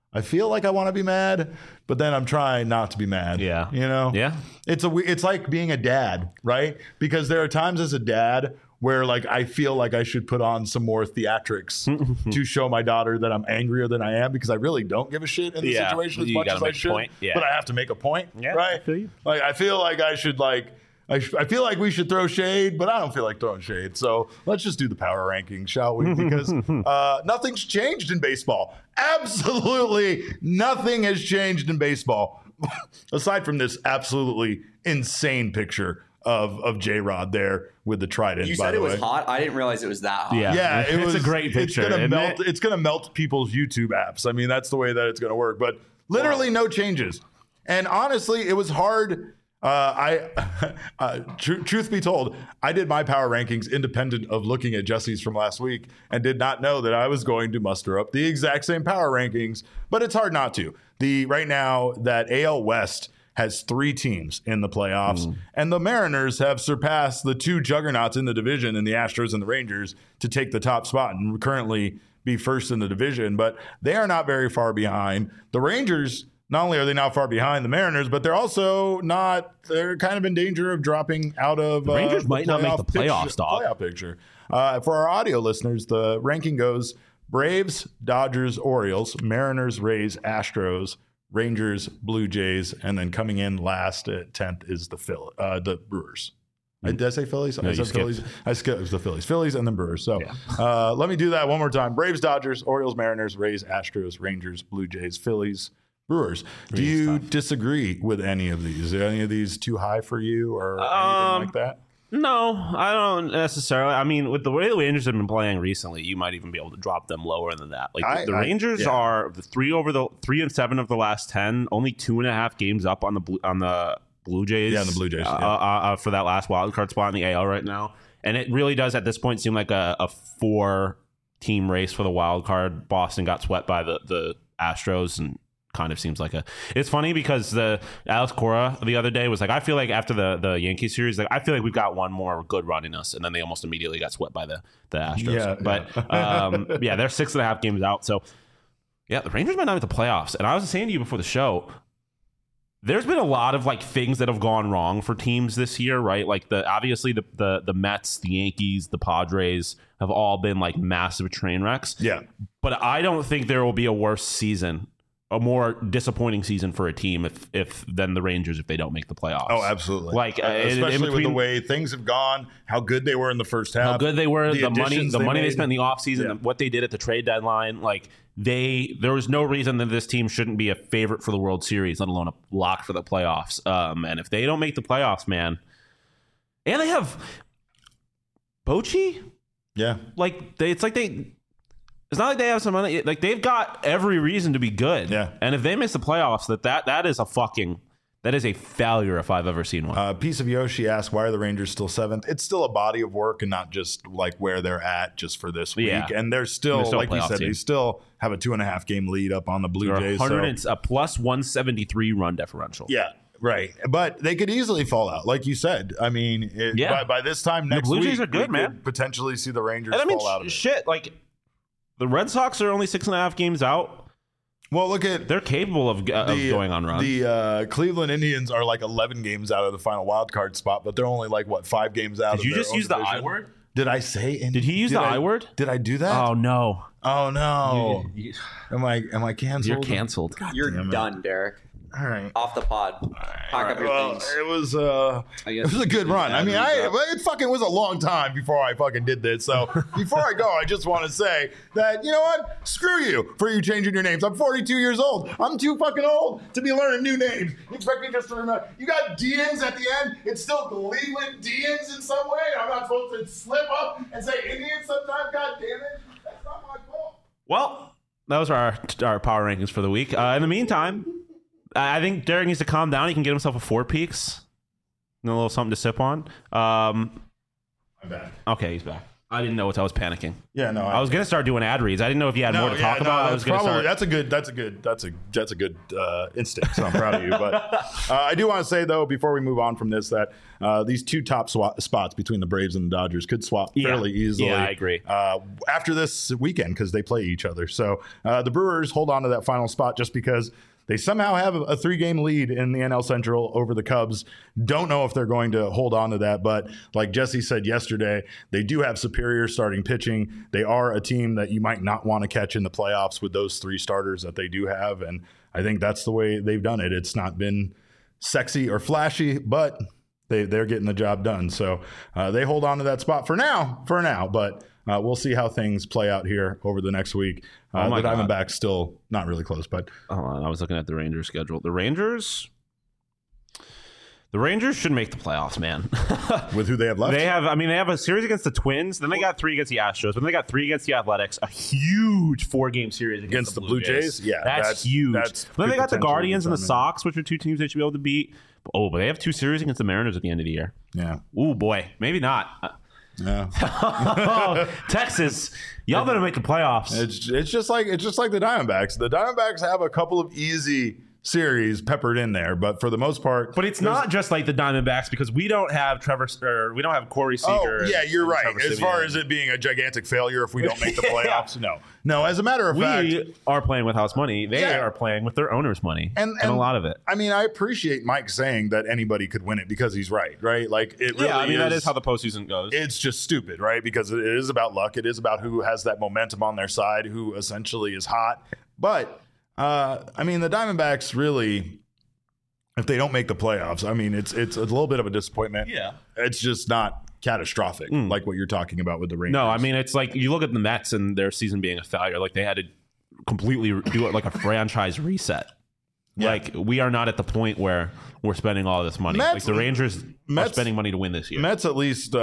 S1: But then I'm trying not to be mad.
S2: Yeah.
S1: Yeah. It's like being a dad, right? Because there are times as a dad where like I feel like I should put on some more theatrics to show my daughter that I'm angrier than I am, because I really don't give a shit in the situation as much as I should. But I have to make a point, right? Like I feel like I should I feel like we should throw shade, but I don't feel like throwing shade. So let's just do the power rankings, shall we? Because nothing's changed in baseball. Absolutely nothing has changed in baseball, aside from this absolutely insane picture of J-Rod there with the trident.
S4: You said it was hot. I didn't realize it was that hot.
S1: Yeah,
S2: it's a great picture.
S1: It's gonna melt people's YouTube apps. I mean, that's the way that it's gonna work. But literally no changes. And honestly, it was hard. Truth be told, I did my power rankings independent of looking at Jesse's from last week and did not know that I was going to muster up the exact same power rankings, but it's hard not to. Right now that AL West has 3 teams in the playoffs, and the Mariners have surpassed the 2 juggernauts in the division, in the Astros and the Rangers, to take the top spot and currently be first in the division, but they are not very far behind. The Rangers, not only are they not far behind the Mariners, but they're also not. They're kind of in danger of dropping out of.
S2: The Rangers might not make the playoffs,
S1: playoff picture. For our audio listeners, the ranking goes: Braves, Dodgers, Orioles, Mariners, Rays, Astros, Rangers, Blue Jays, and then coming in last at 10th is the Brewers. Did I say Phillies?
S2: No,
S1: I said Phillies. I skipped the Phillies and then Brewers. So let me do that one more time: Braves, Dodgers, Orioles, Mariners, Rays, Astros, Rangers, Blue Jays, Phillies, Brewers. Do you disagree with any of these? Are any of these too high for you or anything like that?
S2: No, I don't necessarily. I mean, with the way the Rangers have been playing recently, you might even be able to drop them lower than that. Like the Rangers are the 3 and 7 of the last 10, only 2.5 games up on the Blue Jays.
S1: Yeah, the Blue Jays
S2: for that last wild card spot in the AL right now, and it really does at this point seem like a 4-team race for the wild card. Boston got swept by the Astros, and kind of seems like it's funny because the Alex Cora the other day was like, I feel like after the Yankees series, like I feel like we've got one more good run in us, and then they almost immediately got swept by the Astros. They're 6.5 games out. So the Rangers might not make the playoffs. And I was saying to you before the show, there's been a lot of like things that have gone wrong for teams this year, right? Like obviously the Mets, the Yankees, the Padres have all been like massive train wrecks.
S1: Yeah.
S2: But I don't think there will be a worse season, a more disappointing season for a team if than the Rangers if they don't make the playoffs.
S1: Oh, absolutely.
S2: Like
S1: especially with the way things have gone, how good they were in the first half,
S2: how good they were, the money they spent in the offseason, what they did at the trade deadline. Like there was no reason that this team shouldn't be a favorite for the World Series, let alone a lock for the playoffs. And if they don't make the playoffs, man, and they have Bochy, it's not like they have some money. Like they've got every reason to be good.
S1: Yeah.
S2: And if they miss the playoffs, that is a fucking That is a failure if I've ever seen one.
S1: Piece of Yoshi asked, why are the Rangers still 7th? It's still a body of work and not just like where they're at just for this week. And they're still like you said, they still have a 2.5 game lead up on the Blue Jays.
S2: A plus 173 run differential.
S1: Yeah. Right. But they could easily fall out. Like you said. I mean, by this time next week,
S2: the Blue Jays are good, man.
S1: Could potentially see the Rangers fall out of it.
S2: Shit, like the Red Sox are only 6.5 games out.
S1: Well, look at
S2: they're capable of going on runs.
S1: The Cleveland Indians are like 11 games out of the final wild card spot, but they're only like 5 games out.
S2: Did you just use the I word?
S1: Did I say?
S2: Did he use the I word?
S1: Did I do that?
S2: Oh no!
S1: Oh no! Am I canceled?
S2: You're canceled.
S4: You're done, Derek.
S1: All right,
S4: off the pod. Pack up your things.
S1: It was a good run. I mean, it fucking was a long time before I fucking did this. So before I go, I just want to say that, you know what? Screw you for you changing your names. I'm 42 years old. I'm too fucking old to be learning new names. You expect me just to remember? You got Deans at the end. It's still Cleveland Deans in some way. I'm not supposed to slip up and say Indians sometimes. God damn it. That's not my fault.
S2: Well, that was our power rankings for the week. In the meantime, I think Derek needs to calm down. He can get himself a 4 Peaks and a little something to sip on.
S1: I'm back.
S2: Okay, he's back. I didn't know what I was panicking.
S1: Yeah, no.
S2: I was gonna start doing ad reads. I didn't know if you had more to talk about. I was gonna start.
S1: That's a good instinct. So I'm proud of you. But I do want to say though, before we move on from this, that these 2 top spots between the Braves and the Dodgers could swap fairly easily.
S2: Yeah, I agree.
S1: After this weekend, because they play each other. So the Brewers hold on to that final spot just because they somehow have a 3-game lead in the NL Central over the Cubs. Don't know if they're going to hold on to that, but like Jesse said yesterday, they do have superior starting pitching. They are a team that you might not want to catch in the playoffs with those 3 starters that they do have, and I think that's the way they've done it. It's not been sexy or flashy, but they're getting the job done. So they hold on to that spot for now, but we'll see how things play out here over the next week. The Diamondbacks still not really close, but
S2: hold on. I was looking at the Rangers schedule. The Rangers should make the playoffs, man.
S1: With who they have left?
S2: They have a series against the Twins. Then they got 3 against the Astros. Then they got 3 against the Athletics. A huge 4-game series against the Blue Jays.
S1: Yeah,
S2: that's huge. Then they got the Guardians and the Sox, which are 2 teams they should be able to beat. Oh, but they have 2 series against the Mariners at the end of the year.
S1: Yeah.
S2: Oh boy, maybe not.
S1: Yeah.
S2: Texas, y'all better make the playoffs.
S1: It's just like the Diamondbacks. The Diamondbacks have a couple of easy series peppered in there, but for the most part,
S2: but it's not just like the Diamondbacks because we don't have we don't have Corey Seager.
S1: Oh, yeah, you're right. As far as it being a gigantic failure if we don't make the playoffs, no. As a matter of fact,
S2: we are playing with house money. They are playing with their owner's money, and a lot of it.
S1: I mean, I appreciate Mike saying that anybody could win it because he's right? Like it really.
S2: Yeah, I mean that is how the postseason goes.
S1: It's just stupid, right? Because it is about luck. It is about who has that momentum on their side, who essentially is hot, but. I mean, the Diamondbacks really, if they don't make the playoffs, I mean, it's a little bit of a disappointment.
S2: Yeah.
S1: It's just not catastrophic like what you're talking about with the Rangers.
S2: No, I mean, it's like you look at the Mets and their season being a failure. Like they had to completely do it like a franchise reset. Yeah. Like we are not at the point where we're spending all this money. Like the Rangers are spending money to win this year.
S1: Mets at least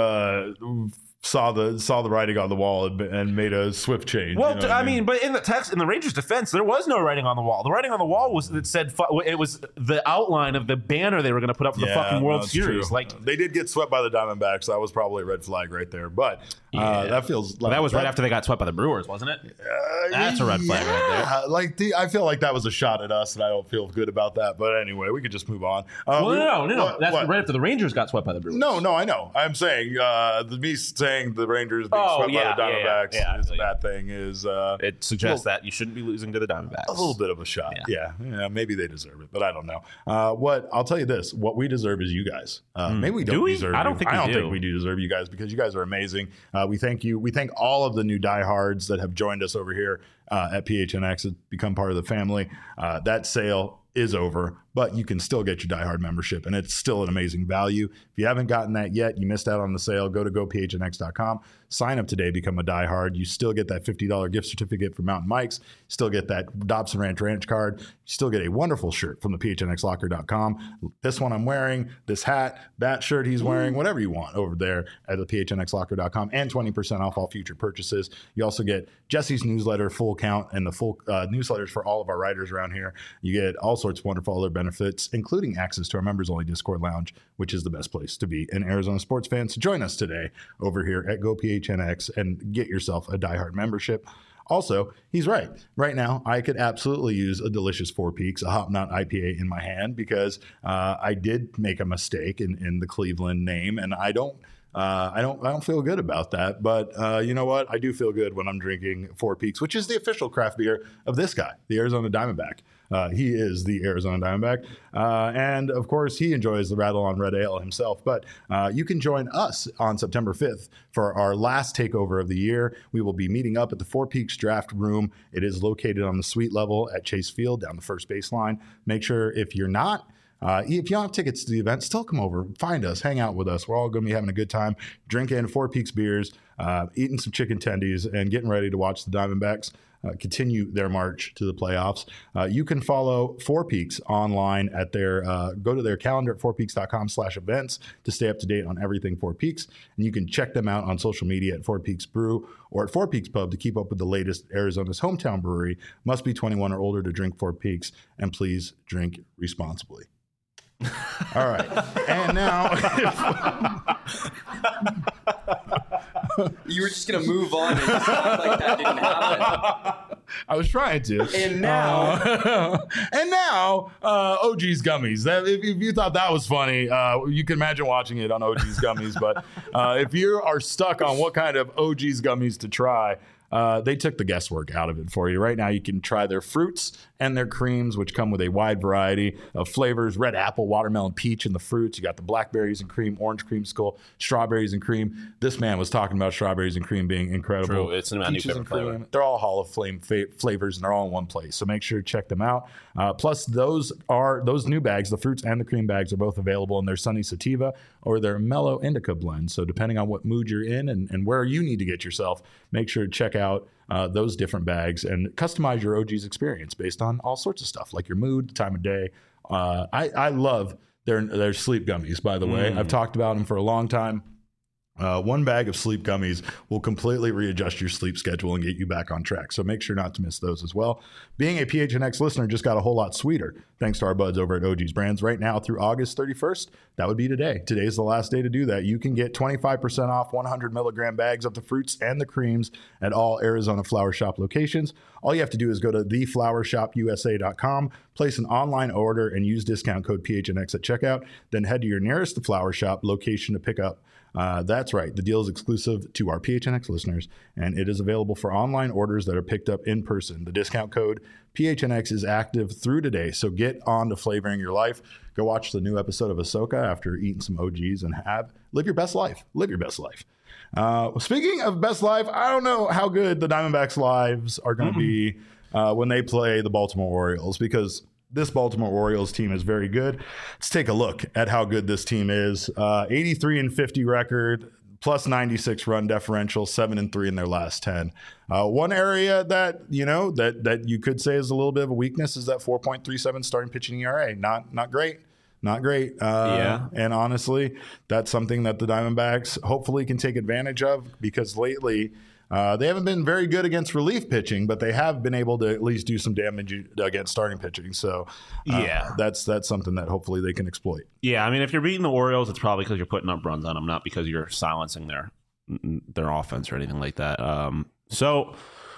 S1: saw the writing on the wall and made a swift change.
S2: Well, you know I mean, but in the Rangers' defense, there was no writing on the wall. The writing on the wall was that said it was the outline of the banner they were going to put up for the fucking World Series.
S1: True. Like they did get swept by the Diamondbacks. That was probably a red flag right there. But that feels like
S2: that was right after they got swept by the Brewers, wasn't it? That's a red flag right there.
S1: Like I feel like that was a shot at us, and I don't feel good about that. But anyway, we could just move on.
S2: No. That's right after the Rangers got swept by the Brewers.
S1: No, I know. I'm saying me saying the Rangers being swept by the Diamondbacks is a bad thing.
S2: It suggests that you shouldn't be losing to the Diamondbacks.
S1: A little bit of a shot. Yeah, maybe they deserve it, but I don't know. I'll tell you this: what we deserve is you guys. Maybe we don't deserve.
S2: I don't think
S1: we do deserve you guys because you guys are amazing. We thank you. We thank all of the new diehards that have joined us over here at PHNX and become part of the family. That sale is over, but you can still get your diehard membership, and it's still an amazing value. If you haven't gotten that yet, you missed out on the sale. Go to gophnx.com, sign up today, become a diehard. You still get that $50 gift certificate from Mountain Mike's. Still get that Dobson Ranch card. You still get a wonderful shirt from the phnxlocker.com. This one I'm wearing, this hat, that shirt he's wearing, whatever you want over there at the phnxlocker.com, and 20% off all future purchases. You also get Jesse's newsletter, full account and the full newsletters for all of our writers around here. You get all sorts of wonderful other benefits, including access to our members-only Discord lounge, which is the best place to be an Arizona sports fan. So join us today over here at GoPHNX and get yourself a diehard membership. Also, he's right. Right now, I could absolutely use a delicious Four Peaks, a Hop Knot IPA in my hand because I did make a mistake in the Cleveland name, and I don't feel good about that. But you know what? I do feel good when I'm drinking Four Peaks, which is the official craft beer of this guy, the Arizona Diamondback. He is the Arizona Diamondback. And of course, he enjoys the Rattle on Red Ale himself. But you can join us on September 5th for our last takeover of the year. We will be meeting up at the Four Peaks Draft Room. It is located on the suite level at Chase Field down the first baseline. Make sure if you're not, if you don't have tickets to the event, still come over, find us, hang out with us. We're all going to be having a good time, drinking Four Peaks beers, eating some chicken tendies, and getting ready to watch the Diamondbacks continue their march to the playoffs. You can follow Four Peaks online at their, go to their calendar at fourpeaks.com/events to stay up to date on everything Four Peaks. And you can check them out on social media at Four Peaks Brew or at Four Peaks Pub to keep up with the latest Arizona's hometown brewery. Must be 21 or older to drink Four Peaks, and please drink responsibly. All right. And now
S4: you were just going to move on and just act like that didn't happen.
S1: I was trying to.
S4: And now
S1: OG's Gummies. If you thought that was funny, you can imagine watching it on OG's Gummies. But if you are stuck on what kind of OG's Gummies to try, they took the guesswork out of it for you. Right now, you can try their fruits and their creams, which come with a wide variety of flavors: red apple, watermelon, peach in the fruits. You got the blackberries and cream, orange creamsicle, strawberries and cream. This man was talking about strawberries and cream being incredible.
S2: True. It's my new favorite flavor.
S1: They're all Hall of Fame flavors, and they're all in one place. So make sure to check them out. Plus, those new bags, the fruits and the cream bags, are both available in their Sunny Sativa or their Mellow Indica blend. So depending on what mood you're in and where you need to get yourself, make sure to check out those different bags and customize your OG's experience based on all sorts of stuff, like your mood, the time of day. I love their sleep gummies, by the way. I've talked about them for a long time. One bag of sleep gummies will completely readjust your sleep schedule and get you back on track. So make sure not to miss those as well. Being a PHNX listener just got a whole lot sweeter thanks to our buds over at OG's Brands. Right now through August 31st, that would be today. Today's the last day to do that. You can get 25% off 100 milligram bags of the fruits and the creams at all Arizona Flower Shop locations. All you have to do is go to theflowershopusa.com, place an online order, and use discount code PHNX at checkout. Then head to your nearest The Flower Shop location to pick up. That's right. The deal is exclusive to our PHNX listeners, and it is available for online orders that are picked up in person. The discount code PHNX is active through today, so get on to flavoring your life. Go watch the new episode of Ahsoka after eating some OGs and live your best life. Live your best life. Speaking of best life, I don't know how good the Diamondbacks' lives are going to be when they play the Baltimore Orioles, because this Baltimore Orioles team is very good. Let's take a look at how good this team is. 83-50 record, plus 96 run differential, 7-3 in their last 10. One area that you could say is a little bit of a weakness is that 4.37 starting pitching ERA. Not great. Not great. And honestly, that's something that the Diamondbacks hopefully can take advantage of, because lately they haven't been very good against relief pitching, but they have been able to at least do some damage against starting pitching. So that's something that hopefully they can exploit.
S2: Yeah, I mean, if you're beating the Orioles, it's probably because you're putting up runs on them, not because you're silencing their offense or anything like that. So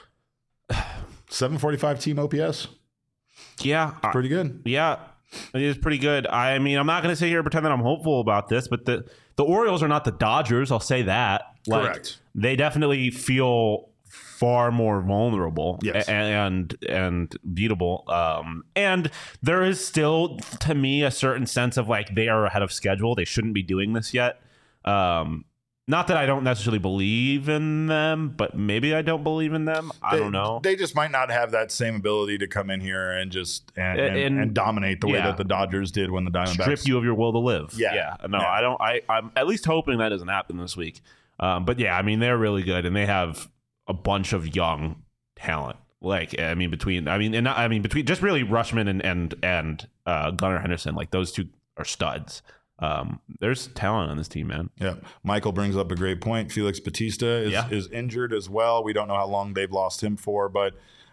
S1: 745 team OPS.
S2: Yeah,
S1: pretty good.
S2: Yeah, it is pretty good. I mean, I'm not going to sit here and pretend that I'm hopeful about this, but the Orioles are not the Dodgers. I'll say that.
S1: Correct.
S2: They definitely feel far more vulnerable,
S1: yes,
S2: and beatable. And there is still, to me, a certain sense of like they are ahead of schedule. They shouldn't be doing this yet. Not that I don't necessarily believe in them, but maybe I don't believe in them. I don't know.
S1: They just might not have that same ability to come in here and just and dominate the way that the Dodgers did when the Diamondbacks
S2: strip you of your will to live.
S1: No,
S2: I don't. I'm at least hoping that doesn't happen this week. But yeah, I mean, they're really good, and they have a bunch of young talent. Like, between just really Rutschman and Gunnar Henderson. Like, those two are studs. There's talent on this team, man.
S1: Yeah. Michael brings up a great point. Felix Bautista is injured as well. We don't know how long they've lost him for, but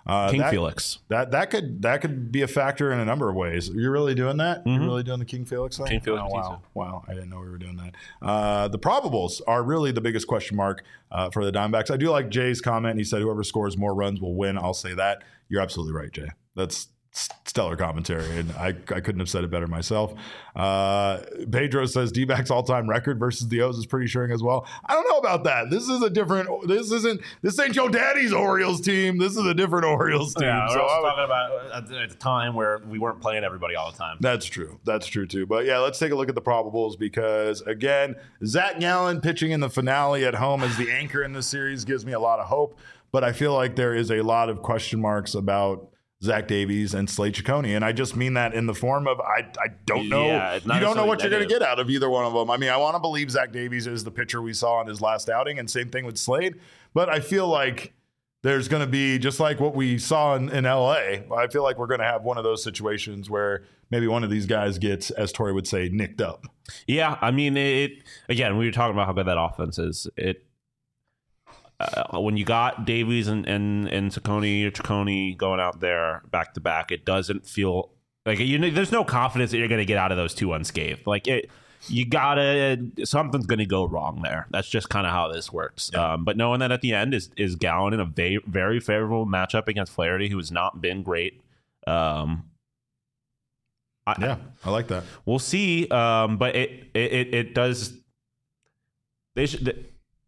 S2: King Felix.
S1: That could be a factor in a number of ways. You're really doing that?
S2: Mm-hmm.
S1: You're really doing the King Felix thing?
S2: King Felix.
S1: Wow. I didn't know we were doing that. The probables are really the biggest question mark for the Diamondbacks. I do like Jay's comment. He said whoever scores more runs will win. I'll say that. You're absolutely right, Jay. That's stellar commentary, and I couldn't have said it better myself. Pedro says D-backs all-time record versus the O's is pretty assuring as well. I don't know about that. This ain't your daddy's Orioles team. This is a different Orioles team.
S2: Yeah, so I was talking about at the time where we weren't playing everybody all the time.
S1: That's true too. But yeah, let's take a look at the probables, because again, Zach Gallen pitching in the finale at home as the anchor in this series gives me a lot of hope, but I feel like there is a lot of question marks about Zach Davies and Slade Ciccone, and I just mean that in the form of I don't know.
S2: Yeah,
S1: you don't know what you're going to get out of either one of them. I mean, I want to believe Zach Davies is the pitcher we saw in his last outing, and same thing with Slade. But I feel like there's going to be, just like what we saw in LA, I feel like we're going to have one of those situations where maybe one of these guys gets, as Tori would say, nicked up.
S2: Yeah, I mean, again, we were talking about how good that offense is. When you got Davies and Ciccone going out there back to back, it doesn't feel like there's no confidence that you're going to get out of those two unscathed. Like something's going to go wrong there. That's just kind of how this works. Yeah. But knowing that at the end is Gallen in a very favorable matchup against Flaherty, who has not been great. I
S1: like that.
S2: We'll see. But it does. They should.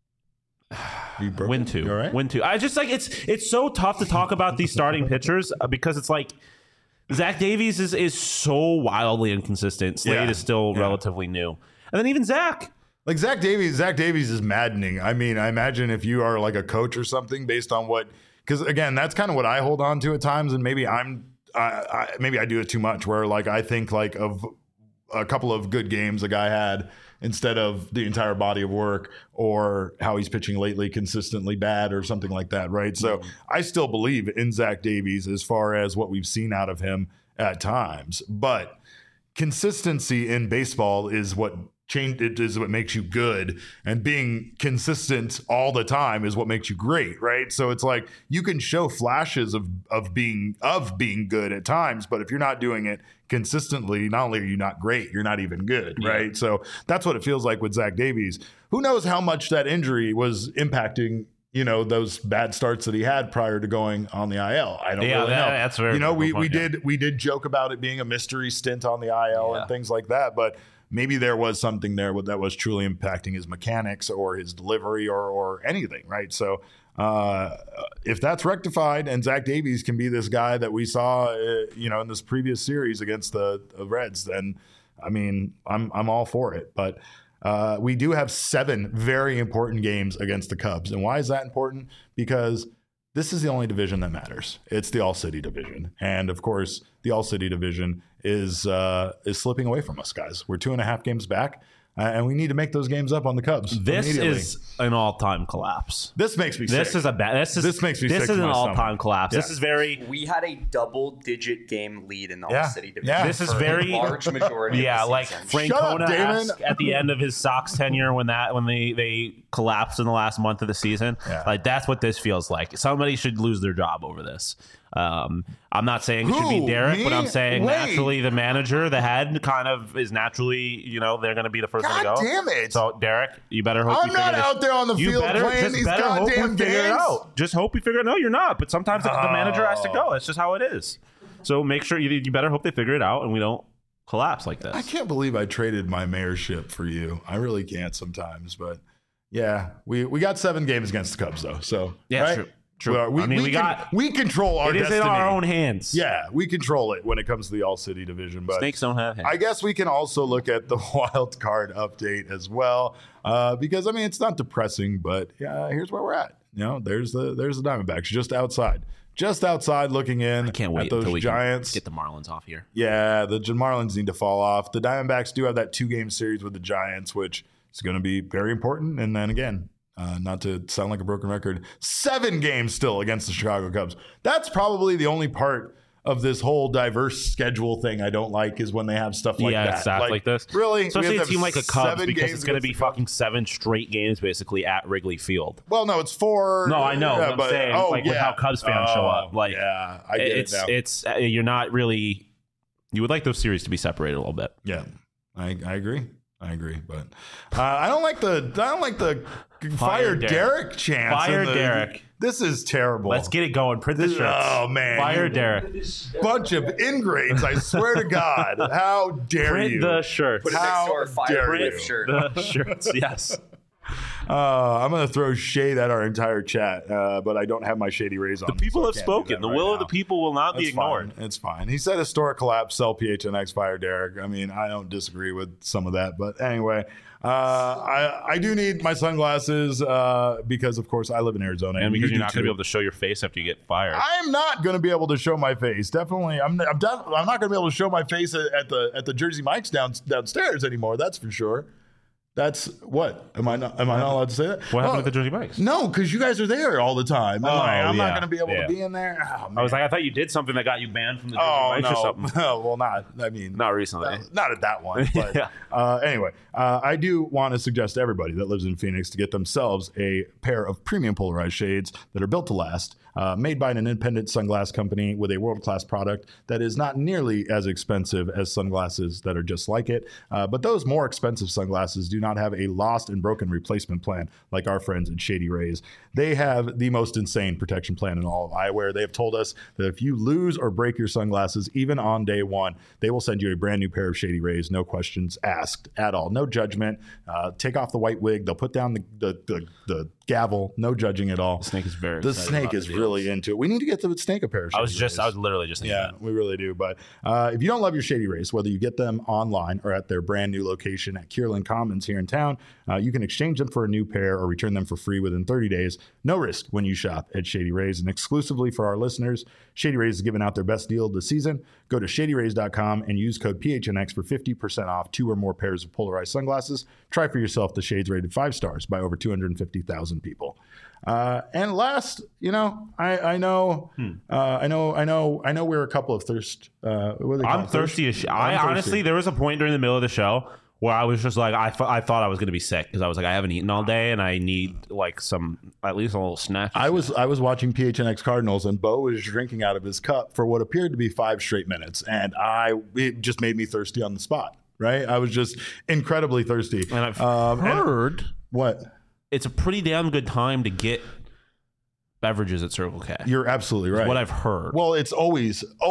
S2: Win two.
S1: Right?
S2: Win two. I just like it's so tough to talk about these starting pitchers because it's like Zach Davies is so wildly inconsistent. Slade is still relatively new, and then even Zach.
S1: Like Zach Davies is maddening. I mean, I imagine if you are like a coach or something, based on because again, that's kind of what I hold on to at times, and maybe maybe I do it too much. Where like I think like of a couple of good games a guy had, instead of the entire body of work or how he's pitching lately consistently bad or something like that, right? So I still believe in Zach Davies as far as what we've seen out of him at times. But consistency in baseball is what makes you good, and being consistent all the time is what makes you great, right? So it's like you can show flashes of being good at times, but if you're not doing it consistently, not only are you not great, you're not even good, right? So that's what it feels like with Zach Davies. Who knows how much that injury was impacting those bad starts that he had prior to going on the IL. I don't really know.
S2: That's very
S1: we did joke about it being a mystery stint on the IL and things like that, but maybe there was something there that was truly impacting his mechanics or his delivery or anything, right? So if that's rectified and Zach Davies can be this guy that we saw, in this previous series against the Reds, then I mean, I'm all for it. But we do have 7 very important games against the Cubs, and why is that important? Because this is the only division that matters. It's the All-City division, and of course, the All-City division is slipping away from us, guys. We're 2.5 games back, and we need to make those games up on the Cubs.
S2: This is an all-time collapse.
S1: This makes me sick.
S2: This is makes me sick. This is an all-time collapse.
S1: Yeah.
S2: This is very.
S4: We had a double-digit game lead in the All-City division.
S1: Yeah.
S2: This is very
S4: large majority.
S2: Yeah,
S4: of the
S2: like
S4: season.
S2: Francona at the end of his Sox tenure when they collapsed in the last month of the season. Yeah. Like that's what this feels like. Somebody should lose their job over this. I'm not saying it should be Derek, but I'm saying naturally the manager, the head, kind of is naturally, they're going to be the first one to go.
S1: God damn it!
S2: So Derek, you better hope
S1: I'm not out there on the field playing these goddamn games.
S2: Just hope we figure it out. No, you're not. But sometimes the manager has to go. It's just how it is. So make sure you better hope they figure it out and we don't collapse like this.
S1: I can't believe I traded my mayorship for you. I really can't sometimes, but yeah, we got 7 games against the Cubs though. So
S2: yeah,
S1: right?
S2: True. True.
S1: We control our destiny.
S2: It is in our own hands.
S1: Yeah, we control it when it comes to the All-City division. But
S2: snakes don't have hands.
S1: I guess we can also look at the wild card update as well, because I mean it's not depressing, but here's where we're at. There's the Diamondbacks just outside looking in.
S2: I can't wait
S1: at those
S2: until we
S1: Giants.
S2: Get the Marlins off here.
S1: Yeah, the Marlins need to fall off. The Diamondbacks do have that 2-game series with the Giants, which is going to be very important. And then again, not to sound like a broken record, 7 games still against the Chicago Cubs. That's probably the only part of this whole diverse schedule thing I don't like is when they have stuff like that.
S2: Exactly like this.
S1: Really?
S2: Especially a team like a Cubs, because
S1: games
S2: it's going to be
S1: against the
S2: fucking 7 straight games basically at Wrigley Field.
S1: Well, no, it's 4.
S2: No, I know.
S1: Yeah,
S2: I'm saying, with how Cubs fans show up. Like,
S1: yeah, I get it now.
S2: It's you're not really. You would like those series to be separated a little bit.
S1: Yeah, I agree. But I don't like the fire Derek chance.
S2: Fire Derek.
S1: This is terrible.
S2: Let's get it going. Print the shirts.
S1: Oh man,
S2: Fire Derek.
S1: Bunch of ingrates. I swear to God. How dare
S2: Print
S1: you?
S2: the shirts.
S4: Put it next to our fire
S1: you?
S4: shirt.
S2: The shirts. Yes.
S1: I'm going to throw shade at our entire chat, but I don't have my Shady Rays on.
S2: The people have spoken. The will of the
S1: people
S2: people will not be ignored.
S1: It's fine. He said historic collapse, sell PHNX, fire Derek. I mean, I don't disagree with some of that. But anyway, I do need my sunglasses because, of course, I live in Arizona.
S2: And because you're not going to be able to show your face after you get fired.
S1: I'm not going to be able to show my face. Definitely. I'm not going to be able to show my face at the Jersey Mike's downstairs anymore. That's for sure. That's what? Am I not allowed to say that?
S2: What happened with the Jersey Mike's?
S1: No, because you guys are there all the time. I'm not going to be able to be in there. Oh,
S2: I was like, I thought you did something that got you banned from the Jersey Mike's or something.
S1: Well, not recently. Not at that one. But anyway, I do want to suggest to everybody that lives in Phoenix to get themselves a pair of premium polarized shades that are built to last, made by an independent sunglass company with a world-class product that is not nearly as expensive as sunglasses that are just like it. But those more expensive sunglasses do not have a lost and broken replacement plan like our friends at Shady Rays. They have the most insane protection plan in all of eyewear. They have told us that if you lose or break your sunglasses, even on day one, they will send you a brand new pair of Shady Rays, no questions asked at all. No judgment. Take off the white wig. They'll put down the gavel. No judging at all.
S2: The snake is very
S1: The snake is really into it. We need to get the snake a pair of Shady Rays.
S2: I was literally just thinking that.
S1: We really do. But if you don't love your Shady Rays, whether you get them online or at their brand new location at Kierland Commons here in town, you can exchange them for a new pair or return them for free within 30 days. No risk when you shop at Shady Rays. And exclusively for our listeners, Shady Rays is giving out their best deal of the season. Go to shadyrays.com and use code PHNX for 50% off 2 or more pairs of polarized sunglasses. Try for yourself the shades rated 5 stars by over 250,000 people. And last, I know we're a couple of thirst.
S2: I'm thirsty as shit. Honestly, there was a point during the middle of the show where I was just like, I thought I was going to be sick because I was like, I haven't eaten all day and I need like at least a little snack.
S1: I was watching PHNX Cardinals and Bo was drinking out of his cup for what appeared to be 5 straight minutes, and it just made me thirsty on the spot. Right, I was just incredibly thirsty.
S2: And I've heard
S1: what.
S2: It's a pretty damn good time to get beverages at Circle K.
S1: You're absolutely right.
S2: What I've heard.
S1: Well, it's always a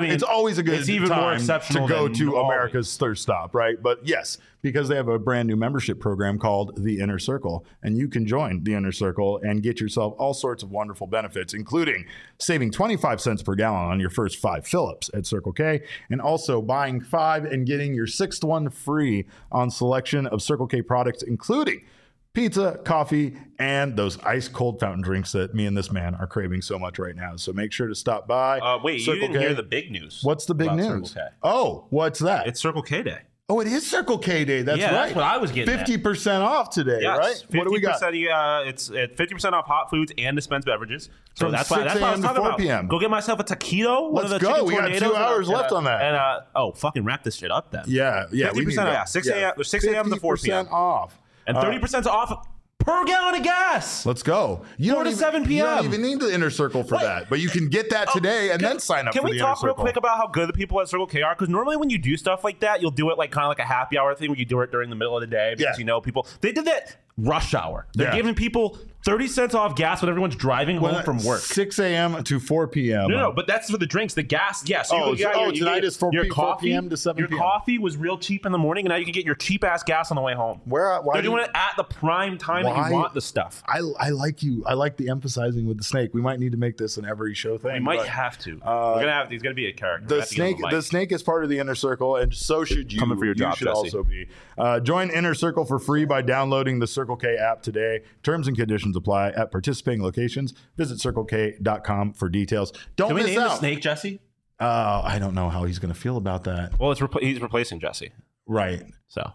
S1: good
S2: even
S1: time
S2: more exceptional
S1: to go
S2: than
S1: to
S2: always.
S1: America's thirst stop, right? But yes, because they have a brand new membership program called The Inner Circle, and you can join The Inner Circle and get yourself all sorts of wonderful benefits, including saving 25 cents per gallon on your first 5 fill-ups at Circle K, and also buying 5 and getting your 6th one free on selection of Circle K products, including pizza, coffee, and those ice cold fountain drinks that me and this man are craving so much right now. So make sure to stop by.
S2: Wait,
S1: Circle
S2: you didn't
S1: K.
S2: hear the big news.
S1: What's the big news? Oh, what's that?
S2: It's Circle K Day.
S1: Oh, it is Circle K Day. That's right.
S2: That's what I was getting
S1: 50% off today, right? What do we got?
S2: It's 50% off hot foods and dispensed beverages. So
S1: From
S2: that's what I
S1: 6
S2: was
S1: a.m. to
S2: talking
S1: 4
S2: about.
S1: p.m.
S2: Go get myself a taquito.
S1: Let's go. We got 2 hours left on that.
S2: And fucking wrap this shit up then.
S1: Yeah.
S2: 50% off. 6 a.m. to 4 p.m.
S1: 50% off.
S2: And 30% off per gallon of gas.
S1: Let's go.
S2: 4 to 7 p.m.
S1: You don't even need the Inner Circle for that, but you can get that today and then sign up for the Inner Circle.
S2: Can we talk real quick about how good the people at Circle K are? Because normally when you do stuff like that, you'll do it like kind of like a happy hour thing where you do it during the middle of the day because people. They did that rush hour. They're giving people 30 cents off gas when everyone's driving home from work.
S1: 6 a.m. to 4 p.m.
S2: No, but that's for the drinks. The gas, yes.
S1: Tonight is 4 p.m. to 7 p.m.
S2: Your coffee was real cheap in the morning, and now you can get your cheap-ass gas on the way home.
S1: Why
S2: They're doing it at the prime time that you want the stuff.
S1: I like you. I like the emphasizing with the snake. We might need to make this an every show thing.
S2: We might have to. He's going to be a character.
S1: The snake is part of the Inner Circle, and so should you.
S2: Coming for your job,
S1: should
S2: Jesse.
S1: Also be. Join Inner Circle for free by downloading the Circle K app today. Terms and conditions apply at participating locations. Visit CircleK.com for details. Don't miss out.
S2: Can we name the snake Jesse?
S1: I don't know how he's going to feel about that.
S2: Well, he's replacing Jesse.
S1: Right.
S2: So.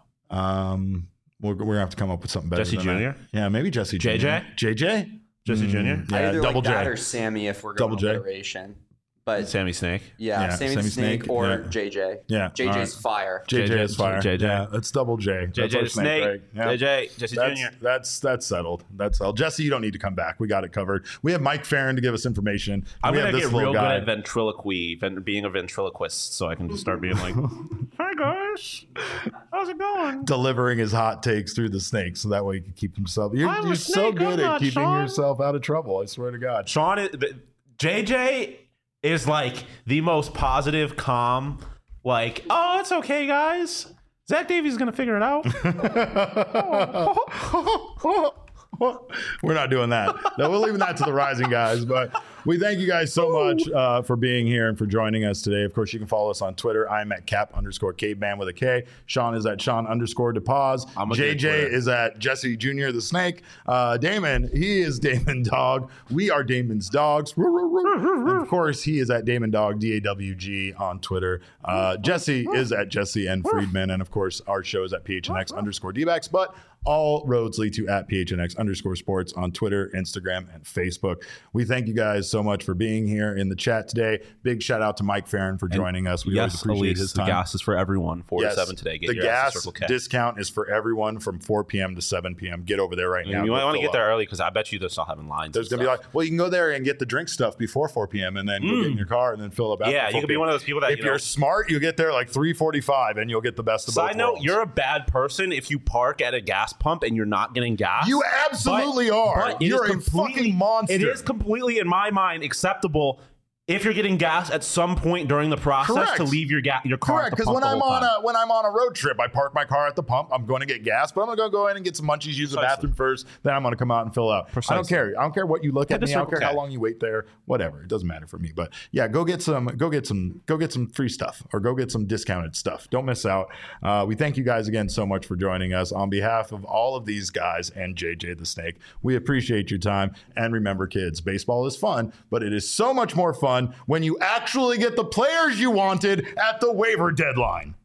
S1: We're going to have to come up with something better.
S2: Jesse
S1: than
S2: Jr.?
S1: That. Yeah, maybe Jesse Jr.
S2: JJ?
S1: JJ?
S2: Jesse Jr.?
S1: Yeah,
S4: Either
S1: Double
S4: like that
S1: J.
S4: or Sammy if we're going
S1: Double J.
S4: alliteration. but
S2: Sammy Snake.
S4: Yeah, Sammy Snake or JJ.
S1: Yeah.
S4: JJ's fire.
S1: JJ is fire.
S2: JJ.
S1: Yeah, that's double J.
S2: JJ the Snake. Right? Yeah. JJ, Jesse Jr.
S1: That's settled. That's settled. Jesse, you don't need to come back. We got it covered. We have Mike Farron to give us information.
S2: I'm going to get real good at ventriloquy, being a ventriloquist, so I can just start being like, "Hi guys, how's it going?"
S1: Delivering his hot takes through the snake, so that way he can keep himself. You're so good at keeping yourself out of trouble. I swear to God.
S2: Sean, JJ is like the most positive, calm, like, oh, it's okay, guys. Zach Davies is going to figure it out.
S1: We're not doing that. No, we're leaving that to the rising guys. But we thank you guys so much for being here and for joining us today. Of course, you can follow us on Twitter. I'm at Cap_Caveman with a K. Sean is at Sean_DePaz. JJ is at Jesse Jr. the Snake. Damon, he is Damon Dog. We are Damon's Dogs. And of course, he is at Damon Dog, DAWG on Twitter. Jesse is at Jesse N. Friedman. And of course, our show is at PHNX_DBacks. But all roads lead to at PHNX_sports on Twitter, Instagram, and Facebook. We thank you guys so much for being here in the chat today. Big shout out to Mike Farron for joining us. We always appreciate his time.
S2: The gas is for everyone, 4 to 7 today.
S1: Get the gas discount is for everyone from 4 p.m. to 7 p.m. Get over there right now.
S2: You might want to get there early because I bet you they're still having lines.
S1: There's going to be well, you can go there and get the drink stuff before 4 p.m. and then go get in your car and then fill up after 4
S2: you could be one of those people that,
S1: if you're smart, you get there like 3:45 and you'll get the best of both worlds.
S2: Side note, you're a bad person if you park at a gas pump and you're not getting gas.
S1: You absolutely are.
S2: But
S1: you're a fucking monster.
S2: It is completely, in my mind, acceptable if you're getting gas at some point during the process to leave your car.
S1: Correct, because when I'm on a road trip, I park my car at the pump. I'm going to get gas, but I'm going to go in and get some munchies, use the bathroom first. Then I'm going to come out and fill out. I don't care. I don't care what you look at me. I don't care how long you wait there. Whatever. It doesn't matter for me. But yeah, go get some free stuff or go get some discounted stuff. Don't miss out. We thank you guys again so much for joining us. On behalf of all of these guys and JJ the Snake, we appreciate your time. And remember, kids, baseball is fun, but it is so much more fun when you actually get the players you wanted at the waiver deadline.